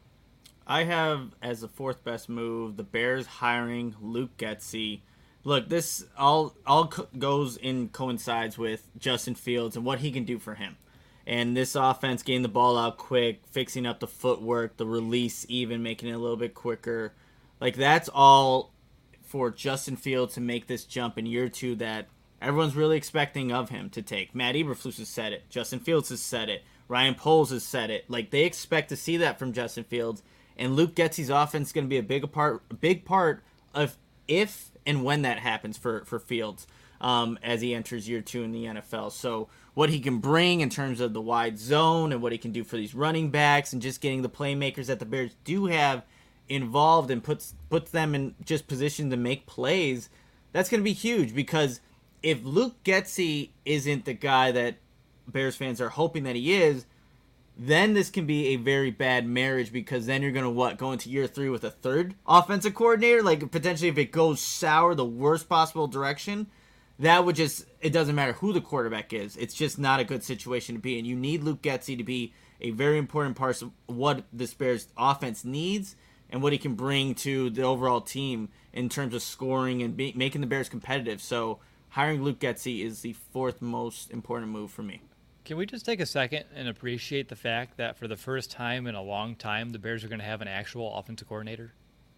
I have as the fourth best move the Bears hiring Luke Getsy. Look, this all all co- goes in coincides with Justin Fields and what he can do for him. And this offense, getting the ball out quick, fixing up the footwork, the release even, making it a little bit quicker. Like, that's all for Justin Fields to make this jump in year two that everyone's really expecting of him to take. Matt Eberflus has said it. Justin Fields has said it. Ryan Poles has said it. Like, they expect to see that from Justin Fields. And Luke Getsy's offense is going to be a big part, a big part of if and when that happens for, for Fields um, as he enters year two in the N F L. So what he can bring in terms of the wide zone and what he can do for these running backs and just getting the playmakers that the Bears do have involved and puts puts them in just position to make plays, that's going to be huge. Because if Luke Getsy isn't the guy that Bears fans are hoping that he is, then this can be a very bad marriage, because then you're going to, what, go into year three with a third offensive coordinator? Like, potentially if it goes sour the worst possible direction, that would just, it doesn't matter who the quarterback is. It's just not a good situation to be in. You need Luke Getsy to be a very important part of what this Bears offense needs and what he can bring to the overall team in terms of scoring and be, making the Bears competitive. So hiring Luke Getsy is the fourth most important move for me. Can we just take a second and appreciate the fact that for the first time in a long time, the Bears are going to have an actual offensive coordinator?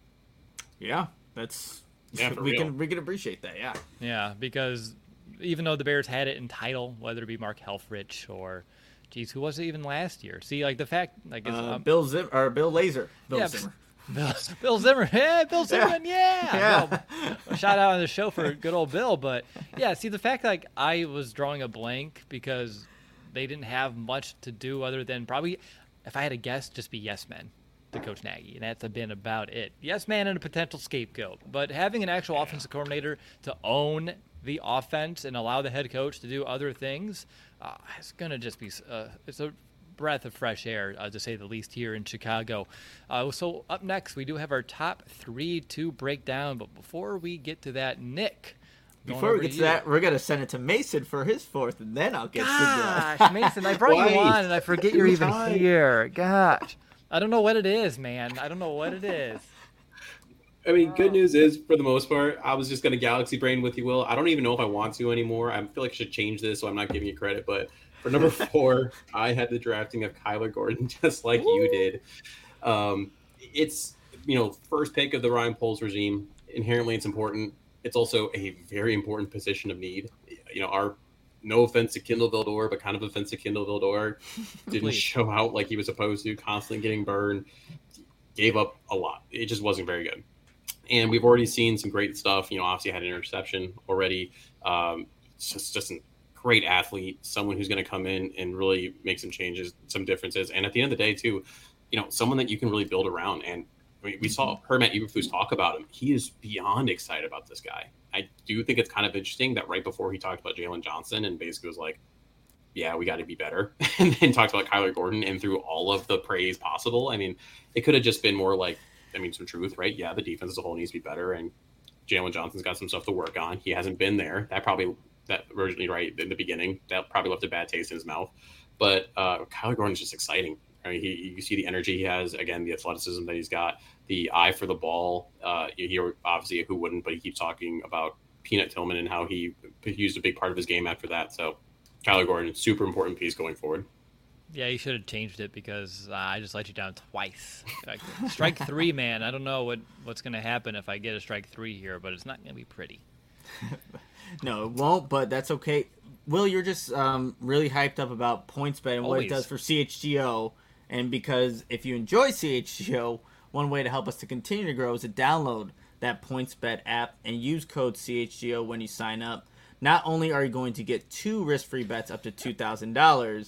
Yeah, that's Yeah, for we real. can we can appreciate that. Yeah. Yeah, because even though the Bears had it in title, whether it be Mark Helfrich or, geez, who was it even last year? See, like the fact, like it's, Uh, um, Bill Zim or Bill Lazor. Bill yeah, Zimmer. Bill, Bill Zimmer, hey, Bill Zimmerman, yeah. Yeah. No, shout out on the show for good old Bill, but yeah, see the fact like I was drawing a blank because they didn't have much to do other than probably, if I had to guess, just be yes men to Coach Nagy, and that's been about it. Yes man and a potential scapegoat, but having an actual offensive coordinator to own the offense and allow the head coach to do other things, uh, it's gonna just be uh, it's a breath of fresh air, uh, to say the least, here in Chicago. Uh, so up next, we do have our top three to break down. But before we get to that, Nick, going Before we over get to you. that, we're gonna send it to Mason for his fourth, and then I'll get to Gosh, Mason, I brought you Twice. on, and I forget Two you're even times. here. Gosh, I don't know what it is, man. I don't know what it is. I mean, good news is, for the most part, I was just going to galaxy brain with you, Will. I don't even know if I want to anymore. I feel like I should change this, so I'm not giving you credit. But for number four, I had the drafting of Kyler Gordon, just like you did. Um, it's, you know, first pick of the Ryan Poles regime. Inherently, it's important. It's also a very important position of need. You know, our no offense to Kindle Vildor, but kind of offense to Kindle Vildor, didn't Please. show out like he was supposed to, constantly getting burned, gave up a lot. It just wasn't very good. And we've already seen some great stuff. You know, obviously had an interception already. Um, it's just, just a great athlete, someone who's going to come in and really make some changes, some differences. And at the end of the day, too, you know, someone that you can really build around. And I mean, we saw Herman Eberflus talk about him. He is beyond excited about this guy. I do think it's kind of interesting that right before he talked about Jalen Johnson and basically was like, yeah, we got to be better. And then talked about Kyler Gordon and threw all of the praise possible. I mean, it could have just been more like, I mean, some truth, right? Yeah, the defense as a whole needs to be better, and Jalen Johnson's got some stuff to work on. He hasn't been there. That probably, that originally, right in the beginning, that probably left a bad taste in his mouth. But uh, Kyler Gordon's just exciting. I mean, he, you see the energy he has, again, the athleticism that he's got, the eye for the ball. Uh, you hear, obviously, who wouldn't, but he keeps talking about Peanut Tillman and how he used a big part of his game after that. So Kyler Gordon, super important piece going forward. Yeah, you should have changed it because uh, I just let you down twice. Like, strike three, man. I don't know what, what's going to happen if I get a strike three here, but it's not going to be pretty. No, it won't, but that's okay. Will, you're just um, really hyped up about PointsBet and what Always. it does for C H G O. And because if you enjoy C H G O, one way to help us to continue to grow is to download that PointsBet app and use code C H G O when you sign up. Not only are you going to get two risk-free bets up to two thousand dollars.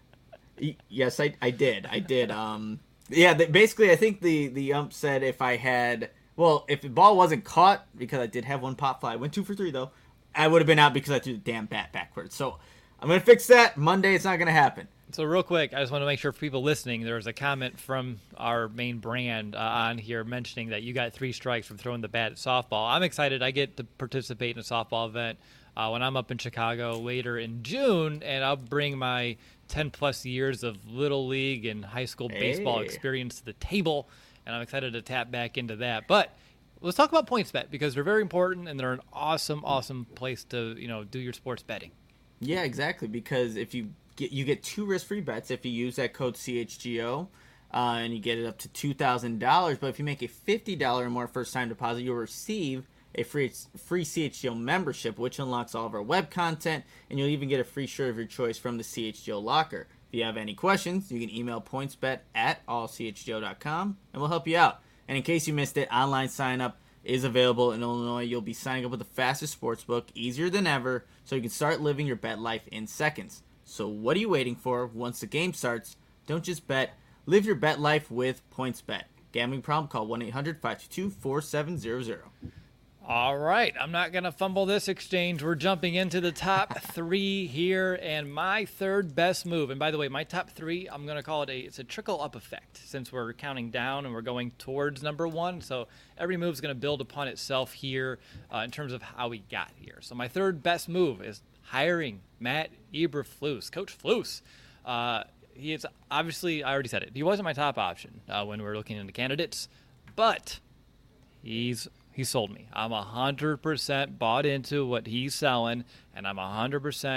Yes, I, I did. I did. Um, yeah, the, basically, I think the, the ump said if I had... Well, if the ball wasn't caught, because I did have one pop fly, I went two for three, though, I would have been out because I threw the damn bat backwards. So I'm going to fix that. Monday, it's not going to happen. So real quick, I just want to make sure for people listening, there was a comment from our main brand uh, on here mentioning that you got three strikes from throwing the bat at softball. I'm excited. I get to participate in a softball event uh, when I'm up in Chicago later in June, and I'll bring my ten-plus years of Little League and high school baseball Hey. experience to the table, and I'm excited to tap back into that. But let's talk about PointsBet because they're very important, and they're an awesome, awesome place to, you know, do your sports betting. Yeah, exactly. Because if you get you get two risk-free bets if you use that code C H G O, uh, and you get it up to two thousand dollars. But if you make a fifty dollars or more first-time deposit, you'll receive a free free C H G O membership, which unlocks all of our web content, and you'll even get a free shirt of your choice from the C H G O locker. If you have any questions, you can email pointsbet at all c h g o dot com, and we'll help you out. And in case you missed it, online sign-up is available in Illinois. You'll be signing up with the fastest sportsbook, easier than ever, so you can start living your bet life in seconds. So what are you waiting for? Once the game starts, don't just bet. Live your bet life with PointsBet. Gambling problem? Call one eight hundred five two two four seven zero zero. All right, I'm not going to fumble this exchange. We're jumping into the top three here, and my third best move. And by the way, my top three, I'm going to call it a it's a trickle up effect since we're counting down and we're going towards number one. So every move is going to build upon itself here uh, in terms of how we got here. So my third best move is hiring Matt Eberflus, Coach Flus. Uh, he is obviously, I already said it, he wasn't my top option uh, when we were looking into candidates, but he's He sold me. I'm one hundred percent bought into what he's selling, and I'm one hundred percent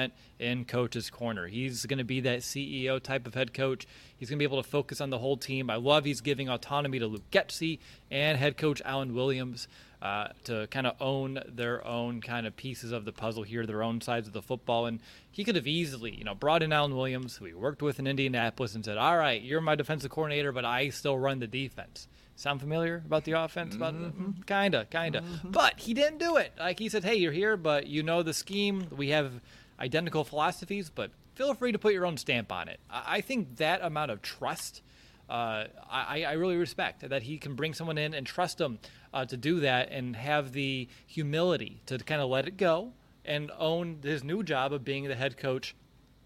in Coach's corner. He's going to be that C E O type of head coach. He's going to be able to focus on the whole team. I love he's giving autonomy to Luke Getsy and head coach Alan Williams uh, to kind of own their own kind of pieces of the puzzle here, their own sides of the football. And he could have easily, you know, brought in Alan Williams, who he worked with in Indianapolis, and said, all right, you're my defensive coordinator, but I still run the defense. Sound familiar about the offense? About mm-hmm. Kinda, kinda. Mm-hmm. But he didn't do it. Like he said, hey, you're here, but you know the scheme. We have identical philosophies, but feel free to put your own stamp on it. I think that amount of trust, uh, I, I really respect that he can bring someone in and trust them uh, to do that and have the humility to kind of let it go and own his new job of being the head coach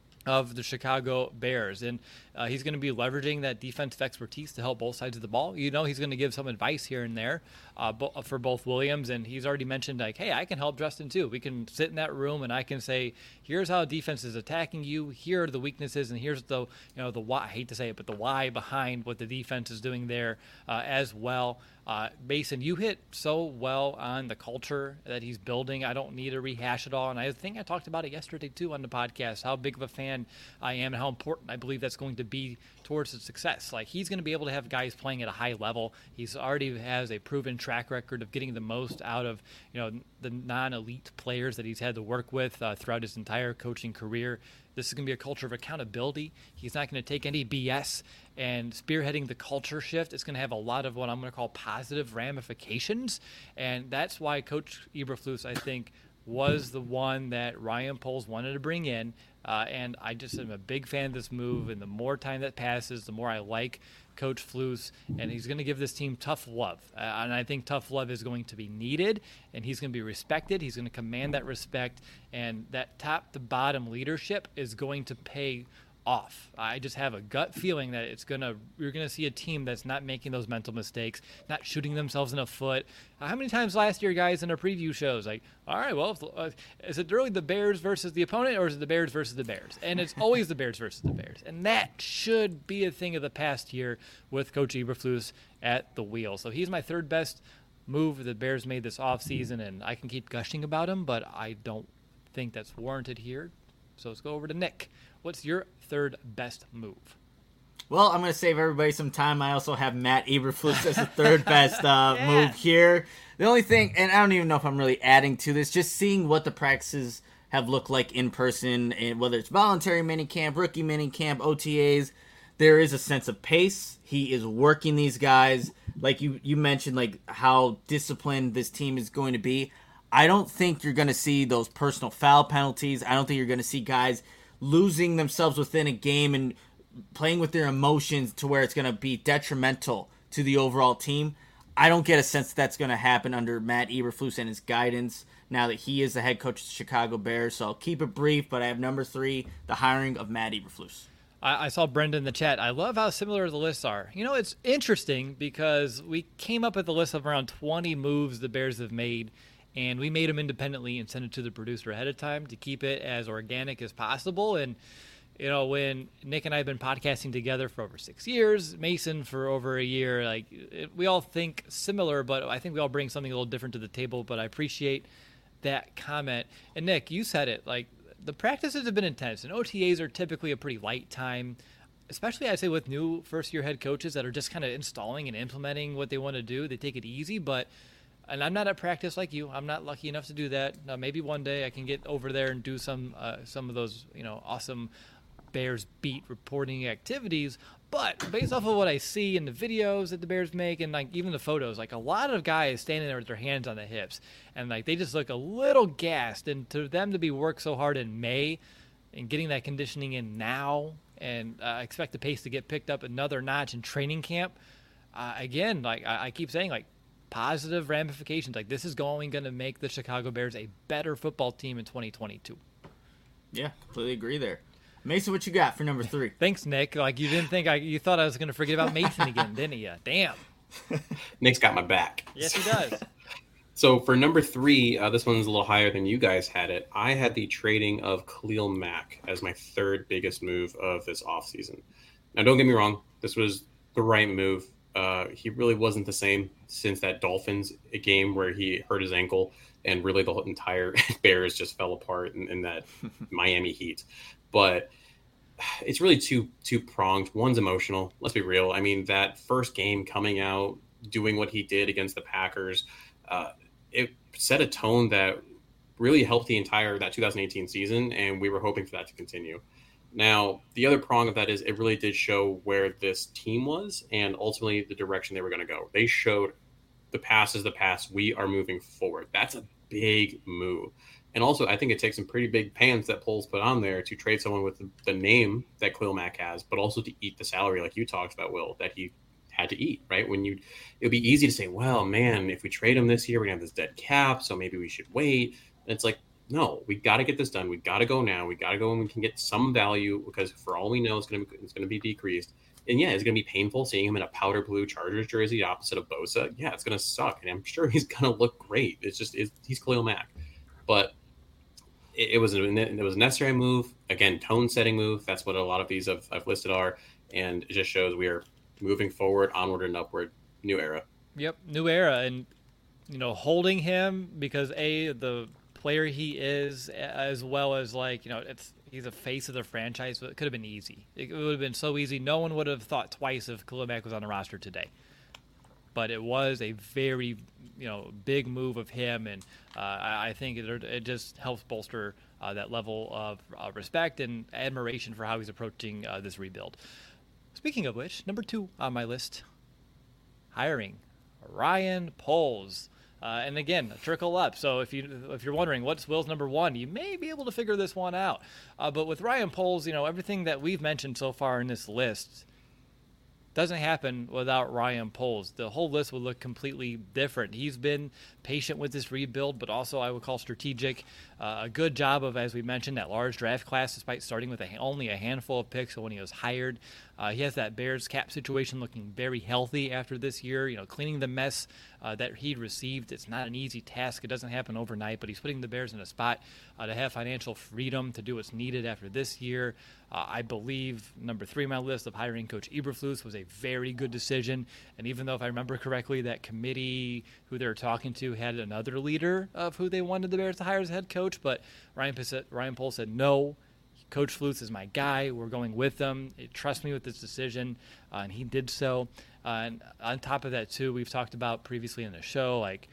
of the Chicago Bears. And uh, he's going to be leveraging that defensive expertise to help both sides of the ball. You know, he's going to give some advice here and there uh, bo- for both Williams. And he's already mentioned, like, hey, I can help Justin too. We can sit in that room and I can say, here's how defense is attacking you. Here are the weaknesses. And here's the, you know, the why, I hate to say it, but the why behind what the defense is doing there uh, as well. Uh, Mason, you hit so well on the culture that he's building. I don't need to rehash it all. And I think I talked about it yesterday, too, on the podcast, how big of a fan I am and how important I believe that's going to be towards the success. Like, he's going to be able to have guys playing at a high level. He's already has a proven track record of getting the most out of, you know, the non-elite players that he's had to work with uh, throughout his entire coaching career. This is going to be a culture of accountability. He's not going to take any B S, and spearheading the culture shift is going to have a lot of what I'm going to call positive ramifications. And that's why Coach Eberflus, I think, was the one that Ryan Poles wanted to bring in. Uh, and I just am a big fan of this move. And the more time that passes, the more I like Coach Flus. And he's going to give this team tough love. Uh, and I think tough love is going to be needed. And he's going to be respected. He's going to command that respect. And that top to bottom leadership is going to pay off. I just have a gut feeling that it's gonna you're gonna see a team that's not making those mental mistakes, not shooting themselves in the foot. Uh, how many times last year, guys, in our preview shows, like, all right, well, if, uh, is it really the Bears versus the opponent, or is it the Bears versus the Bears? And it's always the Bears versus the Bears, and that should be a thing of the past here with Coach Eberflus at the wheel. So he's my third best move the Bears made this offseason, and I can keep gushing about him, but I don't think that's warranted here. So let's go over to Nick. What's your third best move? Well, I'm going to save everybody some time. I also have Matt Eberflus as the third best uh, yeah. move here. The only thing, and I don't even know if I'm really adding to this, just seeing what the practices have looked like in person, and whether it's voluntary minicamp, rookie minicamp, O T As, there is a sense of pace. He is working these guys. Like you, you mentioned, like how disciplined this team is going to be. I don't think you're going to see those personal foul penalties. I don't think you're going to see guys losing themselves within a game and playing with their emotions to where it's going to be detrimental to the overall team. I don't get a sense that that's going to happen under Matt Eberflus and his guidance now that he is the head coach of the Chicago Bears. So I'll keep it brief, but I have number three, the hiring of Matt Eberflus. I, I saw Brendan in the chat. I love how similar the lists are. You know, it's interesting because we came up with a list of around twenty moves the Bears have made, and we made them independently and sent it to the producer ahead of time to keep it as organic as possible. And, you know, when Nick and I have been podcasting together for over six years, Mason for over a year, like, it, we all think similar, but I think we all bring something a little different to the table. But I appreciate that comment. And, Nick, you said it. Like, the practices have been intense, and O T As are typically a pretty light time, especially, I'd say, with new first-year head coaches that are just kind of installing and implementing what they want to do. They take it easy, but – and I'm not at practice like you. I'm not lucky enough to do that. Now, maybe one day I can get over there and do some uh, some of those, you know, awesome Bears beat reporting activities. But based off of what I see in the videos that the Bears make and like even the photos, like a lot of guys standing there with their hands on the hips, and like they just look a little gassed. And to them to be worked so hard in May and getting that conditioning in now, and uh, expect the pace to get picked up another notch in training camp. Uh, again, like I, I keep saying, like, positive ramifications. Like, this is going going to make the Chicago Bears a better football team in twenty twenty-two. Yeah, completely agree there. Mason, what you got for number three? Thanks, Nick. Like, you didn't think I, you thought I was going to forget about Mason again, didn't you? Damn. Nick's got my back. Yes, he does. So for number three, uh, this one's a little higher than you guys had it. I had the trading of Khalil Mack as my third biggest move of this offseason. Now, don't get me wrong. This was the right move. Uh, he really wasn't the same since that Dolphins game where he hurt his ankle, and really the whole entire Bears just fell apart in, in that Miami Heat. But it's really two two pronged. One's emotional. Let's be real. I mean, that first game coming out, doing what he did against the Packers, uh, it set a tone that really helped the entire that two thousand eighteen season, and we were hoping for that to continue. Now, the other prong of that is it really did show where this team was and ultimately the direction they were going to go. They showed the past is the past. We are moving forward. That's a big move. And also, I think it takes some pretty big pants that Poles put on there to trade someone with the, the name that Khalil Mack has, but also to eat the salary, like you talked about, Will, that he had to eat, right? When you, it would be easy to say, well, man, if we trade him this year, we're going to have this dead cap, so maybe we should wait. And it's like, no, we got to get this done. We got to go now. We got to go and we can get some value because for all we know, it's going to be, it's going to be decreased. And yeah, it's going to be painful seeing him in a powder blue Chargers jersey opposite of Bosa. Yeah, it's going to suck. And I'm sure he's going to look great. It's just, it's, he's Khalil Mack. But it, it was a, it was a necessary move. Again, tone setting move. That's what a lot of these I've, I've listed are. And it just shows we are moving forward, onward and upward, new era. Yep, new era. And, you know, holding him because, A, the player he is, as well as, like, you know, it's he's a face of the franchise. It could have been easy. It would have been so easy. No one would have thought twice if Khalil Mack was on the roster today. But it was a very, you know, big move of him, and uh, I, I think it, it just helps bolster uh, that level of uh, respect and admiration for how he's approaching uh, this rebuild. Speaking of which, number two on my list, hiring Ryan Poles. Uh, and again, trickle up. So if you if you're wondering what's Will's number one, you may be able to figure this one out. Uh, but with Ryan Poles, you know, everything that we've mentioned so far in this list doesn't happen without Ryan Poles. The whole list would look completely different. He's been patient with this rebuild, but also I would call strategic. Uh, a good job of, as we mentioned, that large draft class, despite starting with a, only a handful of picks when he was hired. Uh, he has that Bears cap situation looking very healthy after this year, you know, cleaning the mess uh, that he'd received. It's not an easy task. It doesn't happen overnight, but he's putting the Bears in a spot uh, to have financial freedom to do what's needed after this year. Uh, I believe number three on my list of hiring Coach Eberflus was a very good decision. And even though, if I remember correctly, that committee who they were talking to had another leader of who they wanted the Bears to hire as head coach, but Ryan, Ryan Poles said, no, Coach Flus is my guy. We're going with them. Trust me with this decision. Uh, and he did so. Uh, and on top of that, too, we've talked about previously in the show, like,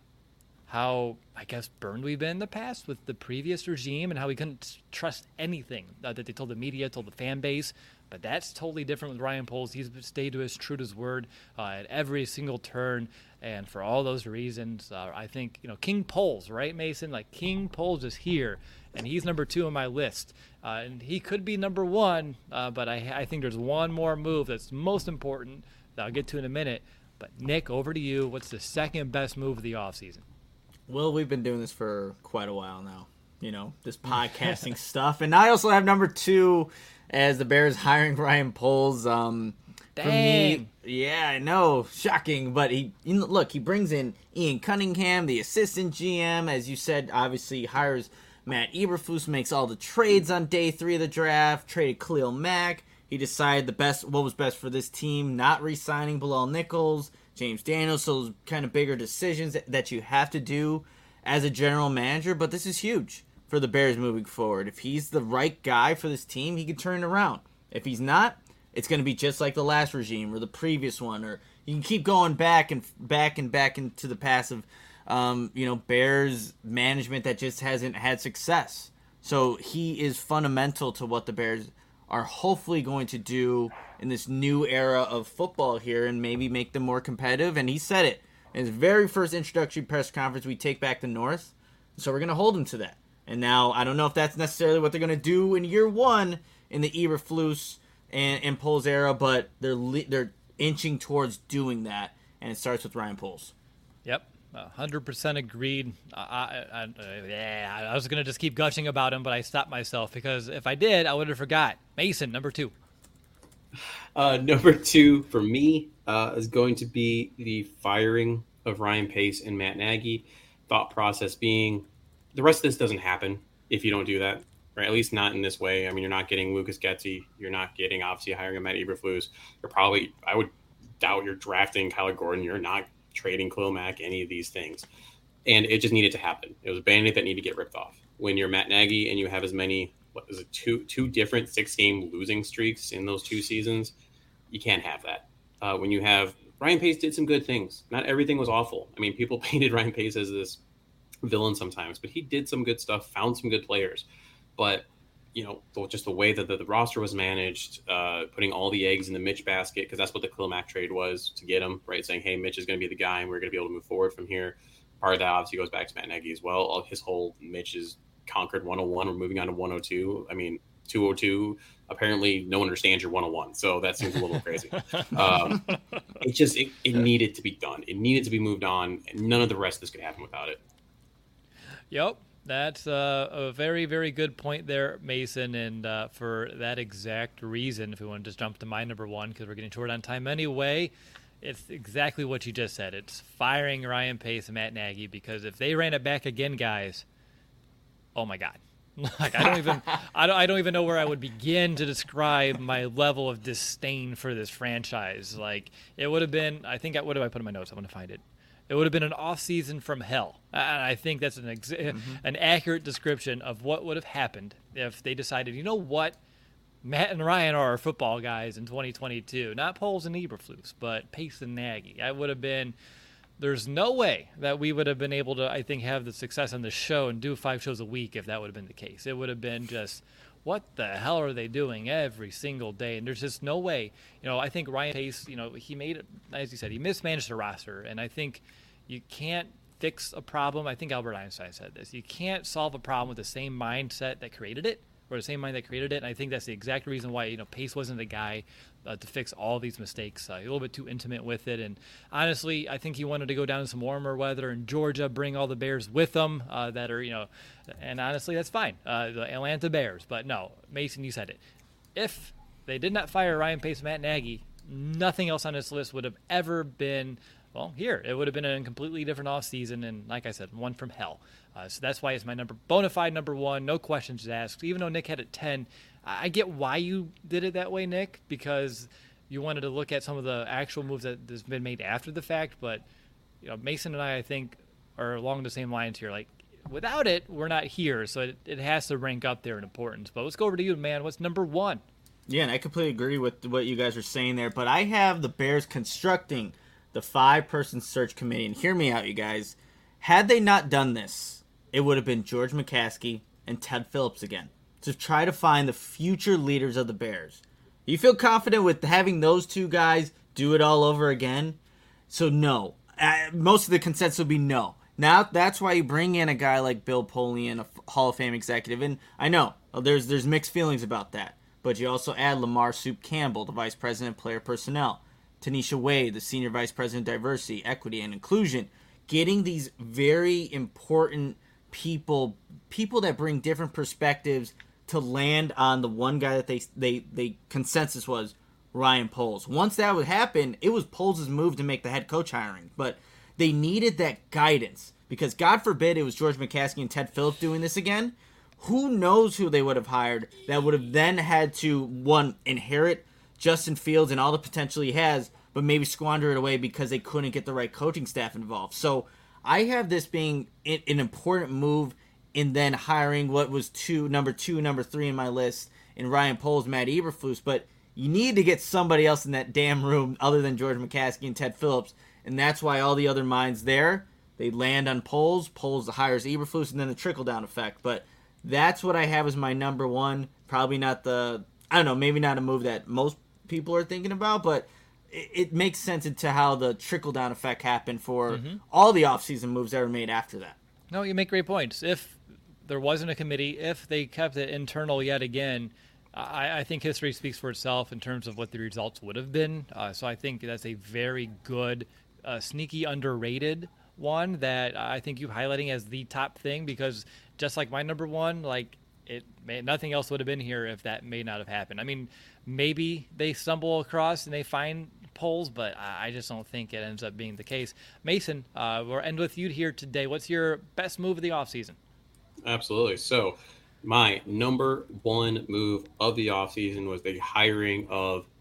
how, I guess, burned we've been in the past with the previous regime and how we couldn't trust anything uh, that they told the media, told the fan base. But that's totally different with Ryan Poles. He's stayed to his true to his word uh, at every single turn. And for all those reasons, uh, I think, you know, King Poles, right, Mason? Like, King Poles is here, and he's number two on my list. Uh, and he could be number one, uh, but I, I think there's one more move that's most important that I'll get to in a minute. But, Nick, over to you. What's the second best move of the offseason? Well, we've been doing this for quite a while now, you know, this podcasting stuff. And I also have number two as the Bears hiring Ryan Poles. Um, Dang. For me, yeah, I know, shocking. But he, you know, look, he brings in Ian Cunningham, the assistant G M. As you said, obviously he hires Matt Eberflus, makes all the trades on day three of the draft, traded Khalil Mack. He decided the best, what was best for this team, not re-signing Bilal Nichols, James Daniels, so those kind of bigger decisions that, that you have to do as a general manager. But this is huge for the Bears moving forward. If he's the right guy for this team, he can turn it around. If he's not, it's going to be just like the last regime or the previous one, or you can keep going back and back and back into the past of, um, you know, Bears management that just hasn't had success. So he is fundamental to what the Bears are hopefully going to do in this new era of football here and maybe make them more competitive. And he said it in his very first introductory press conference, we take back the North. So we're going to hold him to that. And now I don't know if that's necessarily what they're going to do in year one in the Eberflus and, and Poles era, but they're they're inching towards doing that. And it starts with Ryan Poles. Yep. one hundred percent agreed. I, I, I, yeah, I was going to just keep gushing about him, but I stopped myself because if I did, I would have forgot. Mason, number two. Uh, number two for me uh, is going to be the firing of Ryan Pace and Matt Nagy. Thought process being the rest of this doesn't happen if you don't do that, right? At least not in this way. I mean, you're not getting Lucas Getty. You're not getting, obviously, hiring a Matt Eberflus. You're probably, I would doubt you're drafting Kyler Gordon. You're not trading Khalil Mack, any of these things. And it just needed to happen. It was a Band-Aid that needed to get ripped off. When you're Matt Nagy and you have as many, what is it, two two different six-game losing streaks in those two seasons, you can't have that. Uh, when you have, Ryan Pace did some good things. Not everything was awful. I mean, people painted Ryan Pace as this villain sometimes, but he did some good stuff, found some good players. But, you know, just the way that the, the roster was managed, uh, putting all the eggs in the Mitch basket, because that's what the Khalil Mack trade was to get him, right? Saying, hey, Mitch is going to be the guy and we're going to be able to move forward from here. Part of that obviously goes back to Matt Nagy as well. All his whole Mitch is conquered one oh one. We're moving on to one oh two. I mean, two oh two. Apparently, no one understands your one oh one. So that seems a little crazy. Um, it just it, it needed to be done. It needed to be moved on. And none of the rest of this could happen without it. Yep. That's uh, a very, very good point there, Mason. And uh, for that exact reason, if we want to just jump to my number one, because we're getting short on time anyway, it's exactly what you just said. It's firing Ryan Pace and Matt Nagy, because if they ran it back again, guys, oh my God. Like I don't even I don't I don't even know where I would begin to describe my level of disdain for this franchise. Like it would have been, I think I what did I put in my notes? I'm going to find it. It would have been an off season from hell. And I think that's an ex- mm-hmm. an accurate description of what would have happened if they decided, you know what? Matt and Ryan are our football guys in twenty twenty-two. Not Poles and Eberflus, but Pace and Nagy. I would have been There's no way that we would have been able to, I think, have the success on the show and do five shows a week if that would have been the case. It would have been just, what the hell are they doing every single day? And there's just no way. You know, I think Ryan Pace, you know, he made it, as you said, he mismanaged the roster. And I think you can't fix a problem. I think Albert Einstein said this. You can't solve a problem with the same mindset that created it, or the same mind that created it. And I think that's the exact reason why, you know, Pace wasn't the guy uh, to fix all these mistakes. Uh, a little bit too intimate with it. And honestly, I think he wanted to go down in some warmer weather in Georgia, bring all the Bears with them uh, that are, you know, and honestly, that's fine. Uh, the Atlanta Bears. But no, Mason, you said it. If they did not fire Ryan Pace and Matt Nagy, nothing else on this list would have ever been, well, here. It would have been a completely different offseason, and like I said, one from hell. Uh, so that's why it's my number, bona fide number one, no questions asked. Even though Nick had it ten, I get why you did it that way, Nick, because you wanted to look at some of the actual moves that has been made after the fact. But you know, Mason and I, I think, are along the same lines here. Like, without it, we're not here, so it, it has to rank up there in importance. But let's go over to you, man. What's number one? Yeah, and I completely agree with what you guys are saying there. But I have the Bears constructing the five-person search committee. And hear me out, you guys. Had they not done this, it would have been George McCaskey and Ted Phillips again to try to find the future leaders of the Bears. You feel confident with having those two guys do it all over again? So no. Uh, most of the consensus would be no. Now that's why you bring in a guy like Bill Polian, a Hall of Fame executive. And I know there's there's mixed feelings about that. But you also add Lamar Soup Campbell, the Vice President of Player Personnel. Tanisha Wade, the Senior Vice President of Diversity, Equity, and Inclusion. Getting these very important people, people that bring different perspectives to land on the one guy that they they, they consensus was Ryan Poles. Once that would happen, it was Poles' move to make the head coach hiring. But they needed that guidance because God forbid it was George McCaskey and Ted Phillips doing this again. Who knows who they would have hired that would have then had to, one, inherit Justin Fields and all the potential he has, but maybe squander it away because they couldn't get the right coaching staff involved. So I have this being an important move in then hiring what was two, number two, number three in my list in Ryan Poles, Matt Eberflus. But you need to get somebody else in that damn room other than George McCaskey and Ted Phillips, and that's why all the other minds there, they land on Poles. Poles hires Eberflus, and then the trickle-down effect. But that's what I have as my number one. Probably not the, I don't know, maybe not a move that most people are thinking about, but it, it makes sense into how the trickle-down effect happened for mm-hmm. all the offseason moves that were made after that. No, you make great points. If there wasn't a committee, if they kept it internal yet again, I, I think history speaks for itself in terms of what the results would have been. Uh, so I think that's a very good, uh, sneaky underrated one that I think you're highlighting as the top thing, because just like my number one, like it may, nothing else would have been here if that may not have happened. I mean, maybe they stumble across and they find Poles, but I just don't think it ends up being the case. Mason, uh, we'll end with you here today. What's your best move of the offseason? Absolutely. So my number one move of the offseason was the hiring of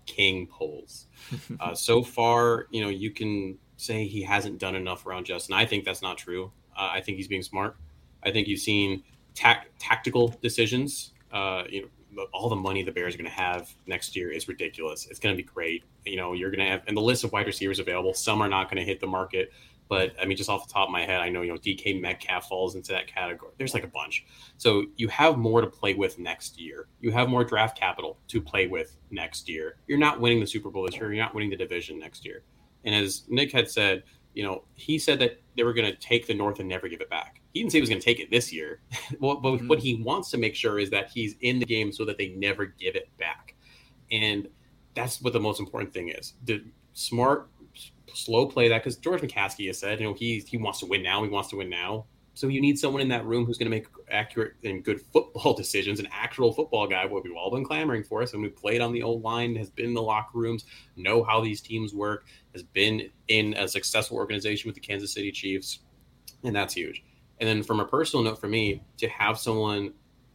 King Poles. Uh, so far, you know, you can say he hasn't done enough around Justin. I think that's not true. Uh, I think he's being smart. I think you've seen tac- tactical decisions. Uh, you know, all the money the Bears are going to have next year is ridiculous. It's going to be great. You know, you're going to have, and the list of wide receivers available, some are not going to hit the market. But I mean, just off the top of my head, I know, you know, D K Metcalf falls into that category. There's like a bunch. So you have more to play with next year. You have more draft capital to play with next year. You're not winning the Super Bowl this year. You're not winning the division next year. And as Nick had said, you know, he said that they were going to take the North and never give it back. He didn't say he was going to take it this year. Well, but mm-hmm. what he wants to make sure is that he's in the game so that they never give it back. And that's what the most important thing is. The smart, slow play that, because George McCaskey has said, you know, he he wants to win now. He wants to win now. So you need someone in that room who's going to make accurate and good football decisions, an actual football guy, what we've all been clamoring for. Someone who played on the O-line, has been in the locker rooms, know how these teams work, has been in a successful organization with the Kansas City Chiefs, and that's huge. And then from a personal note for me, to have someone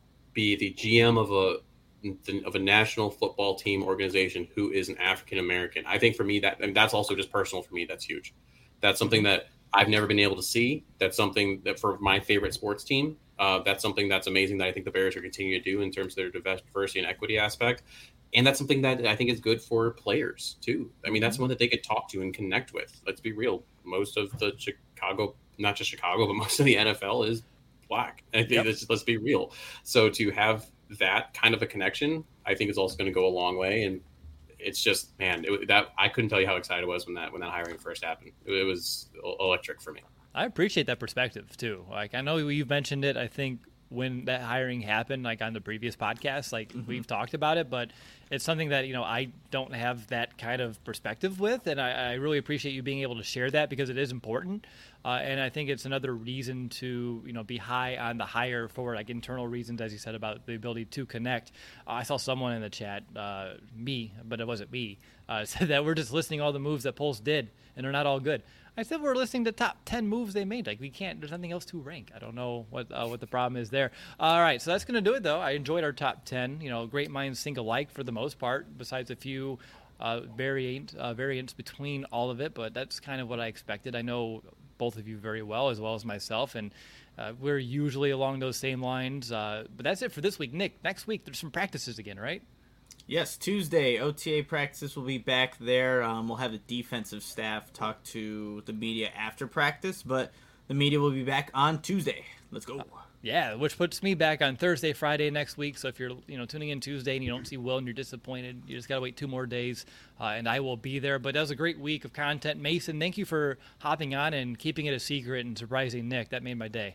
be the G M of a of a national football team organization who is an African American, I think for me that, and that's also just personal for me, that's huge. That's something that I've never been able to see. That's something that for my favorite sports team, uh, that's something that's amazing that I think the Bears are continuing to do in terms of their diversity and equity aspect. And that's something that I think is good for players too. I mean, that's someone that they could talk to and connect with. Let's be real. Most of the Chicago, not just Chicago, but most of the N F L is black. I think yep. let's, let's be real. So to have that kind of a connection, I think is also going to go a long way. And it's just, man, it, that I couldn't tell you how excited I was when that when that hiring first happened. It, it was electric for me. I appreciate that perspective too. Like, I know you've mentioned it. I think when that hiring happened, like on the previous podcast, like mm-hmm. we've talked about it, but it's something that, you know, I don't have that kind of perspective with, and I, I really appreciate you being able to share that because it is important. Uh, and I think it's another reason to, you know, be high on the hire for like internal reasons, as you said, about the ability to connect. Uh, I saw someone in the chat, uh, me, but it wasn't me, uh, said that we're just listing all the moves that Pulse did, and they're not all good. I said we're listing the top ten moves they made. Like, we can't, there's nothing else to rank. I don't know what uh, what the problem is there. All right, so that's going to do it, though. I enjoyed our top ten. You know, great minds think alike for the most part, besides a few uh, variant, uh, variants between all of it, but that's kind of what I expected. I know both of you very well, as well as myself, and uh, we're usually along those same lines. Uh, but that's it for this week. Nick, next week there's some practices again, right? Yes, Tuesday, O T A practice will be back there. Um, we'll have the defensive staff talk to the media after practice, but the media will be back on Tuesday. Let's go. Uh, yeah, which puts me back on Thursday, Friday next week. So if you're, you know, tuning in Tuesday and you don't see Will and you're disappointed, you just got to wait two more days, uh, and I will be there. But that was a great week of content. Mason, thank you for hopping on and keeping it a secret and surprising Nick. That made my day.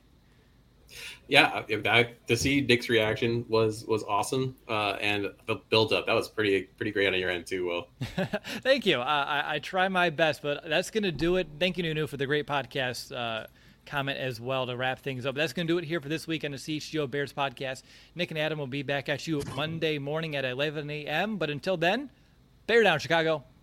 Yeah, that, to see Nick's reaction was was awesome, uh, and the build up, that was pretty pretty great on your end too, Will. Thank you. I, I, I try my best, but that's going to do it. Thank you, Nunu, for the great podcast uh, comment as well to wrap things up. That's going to do it here for this week on the C H G O Bears podcast. Nick and Adam will be back at you Monday morning at eleven a.m., but until then, bear down, Chicago.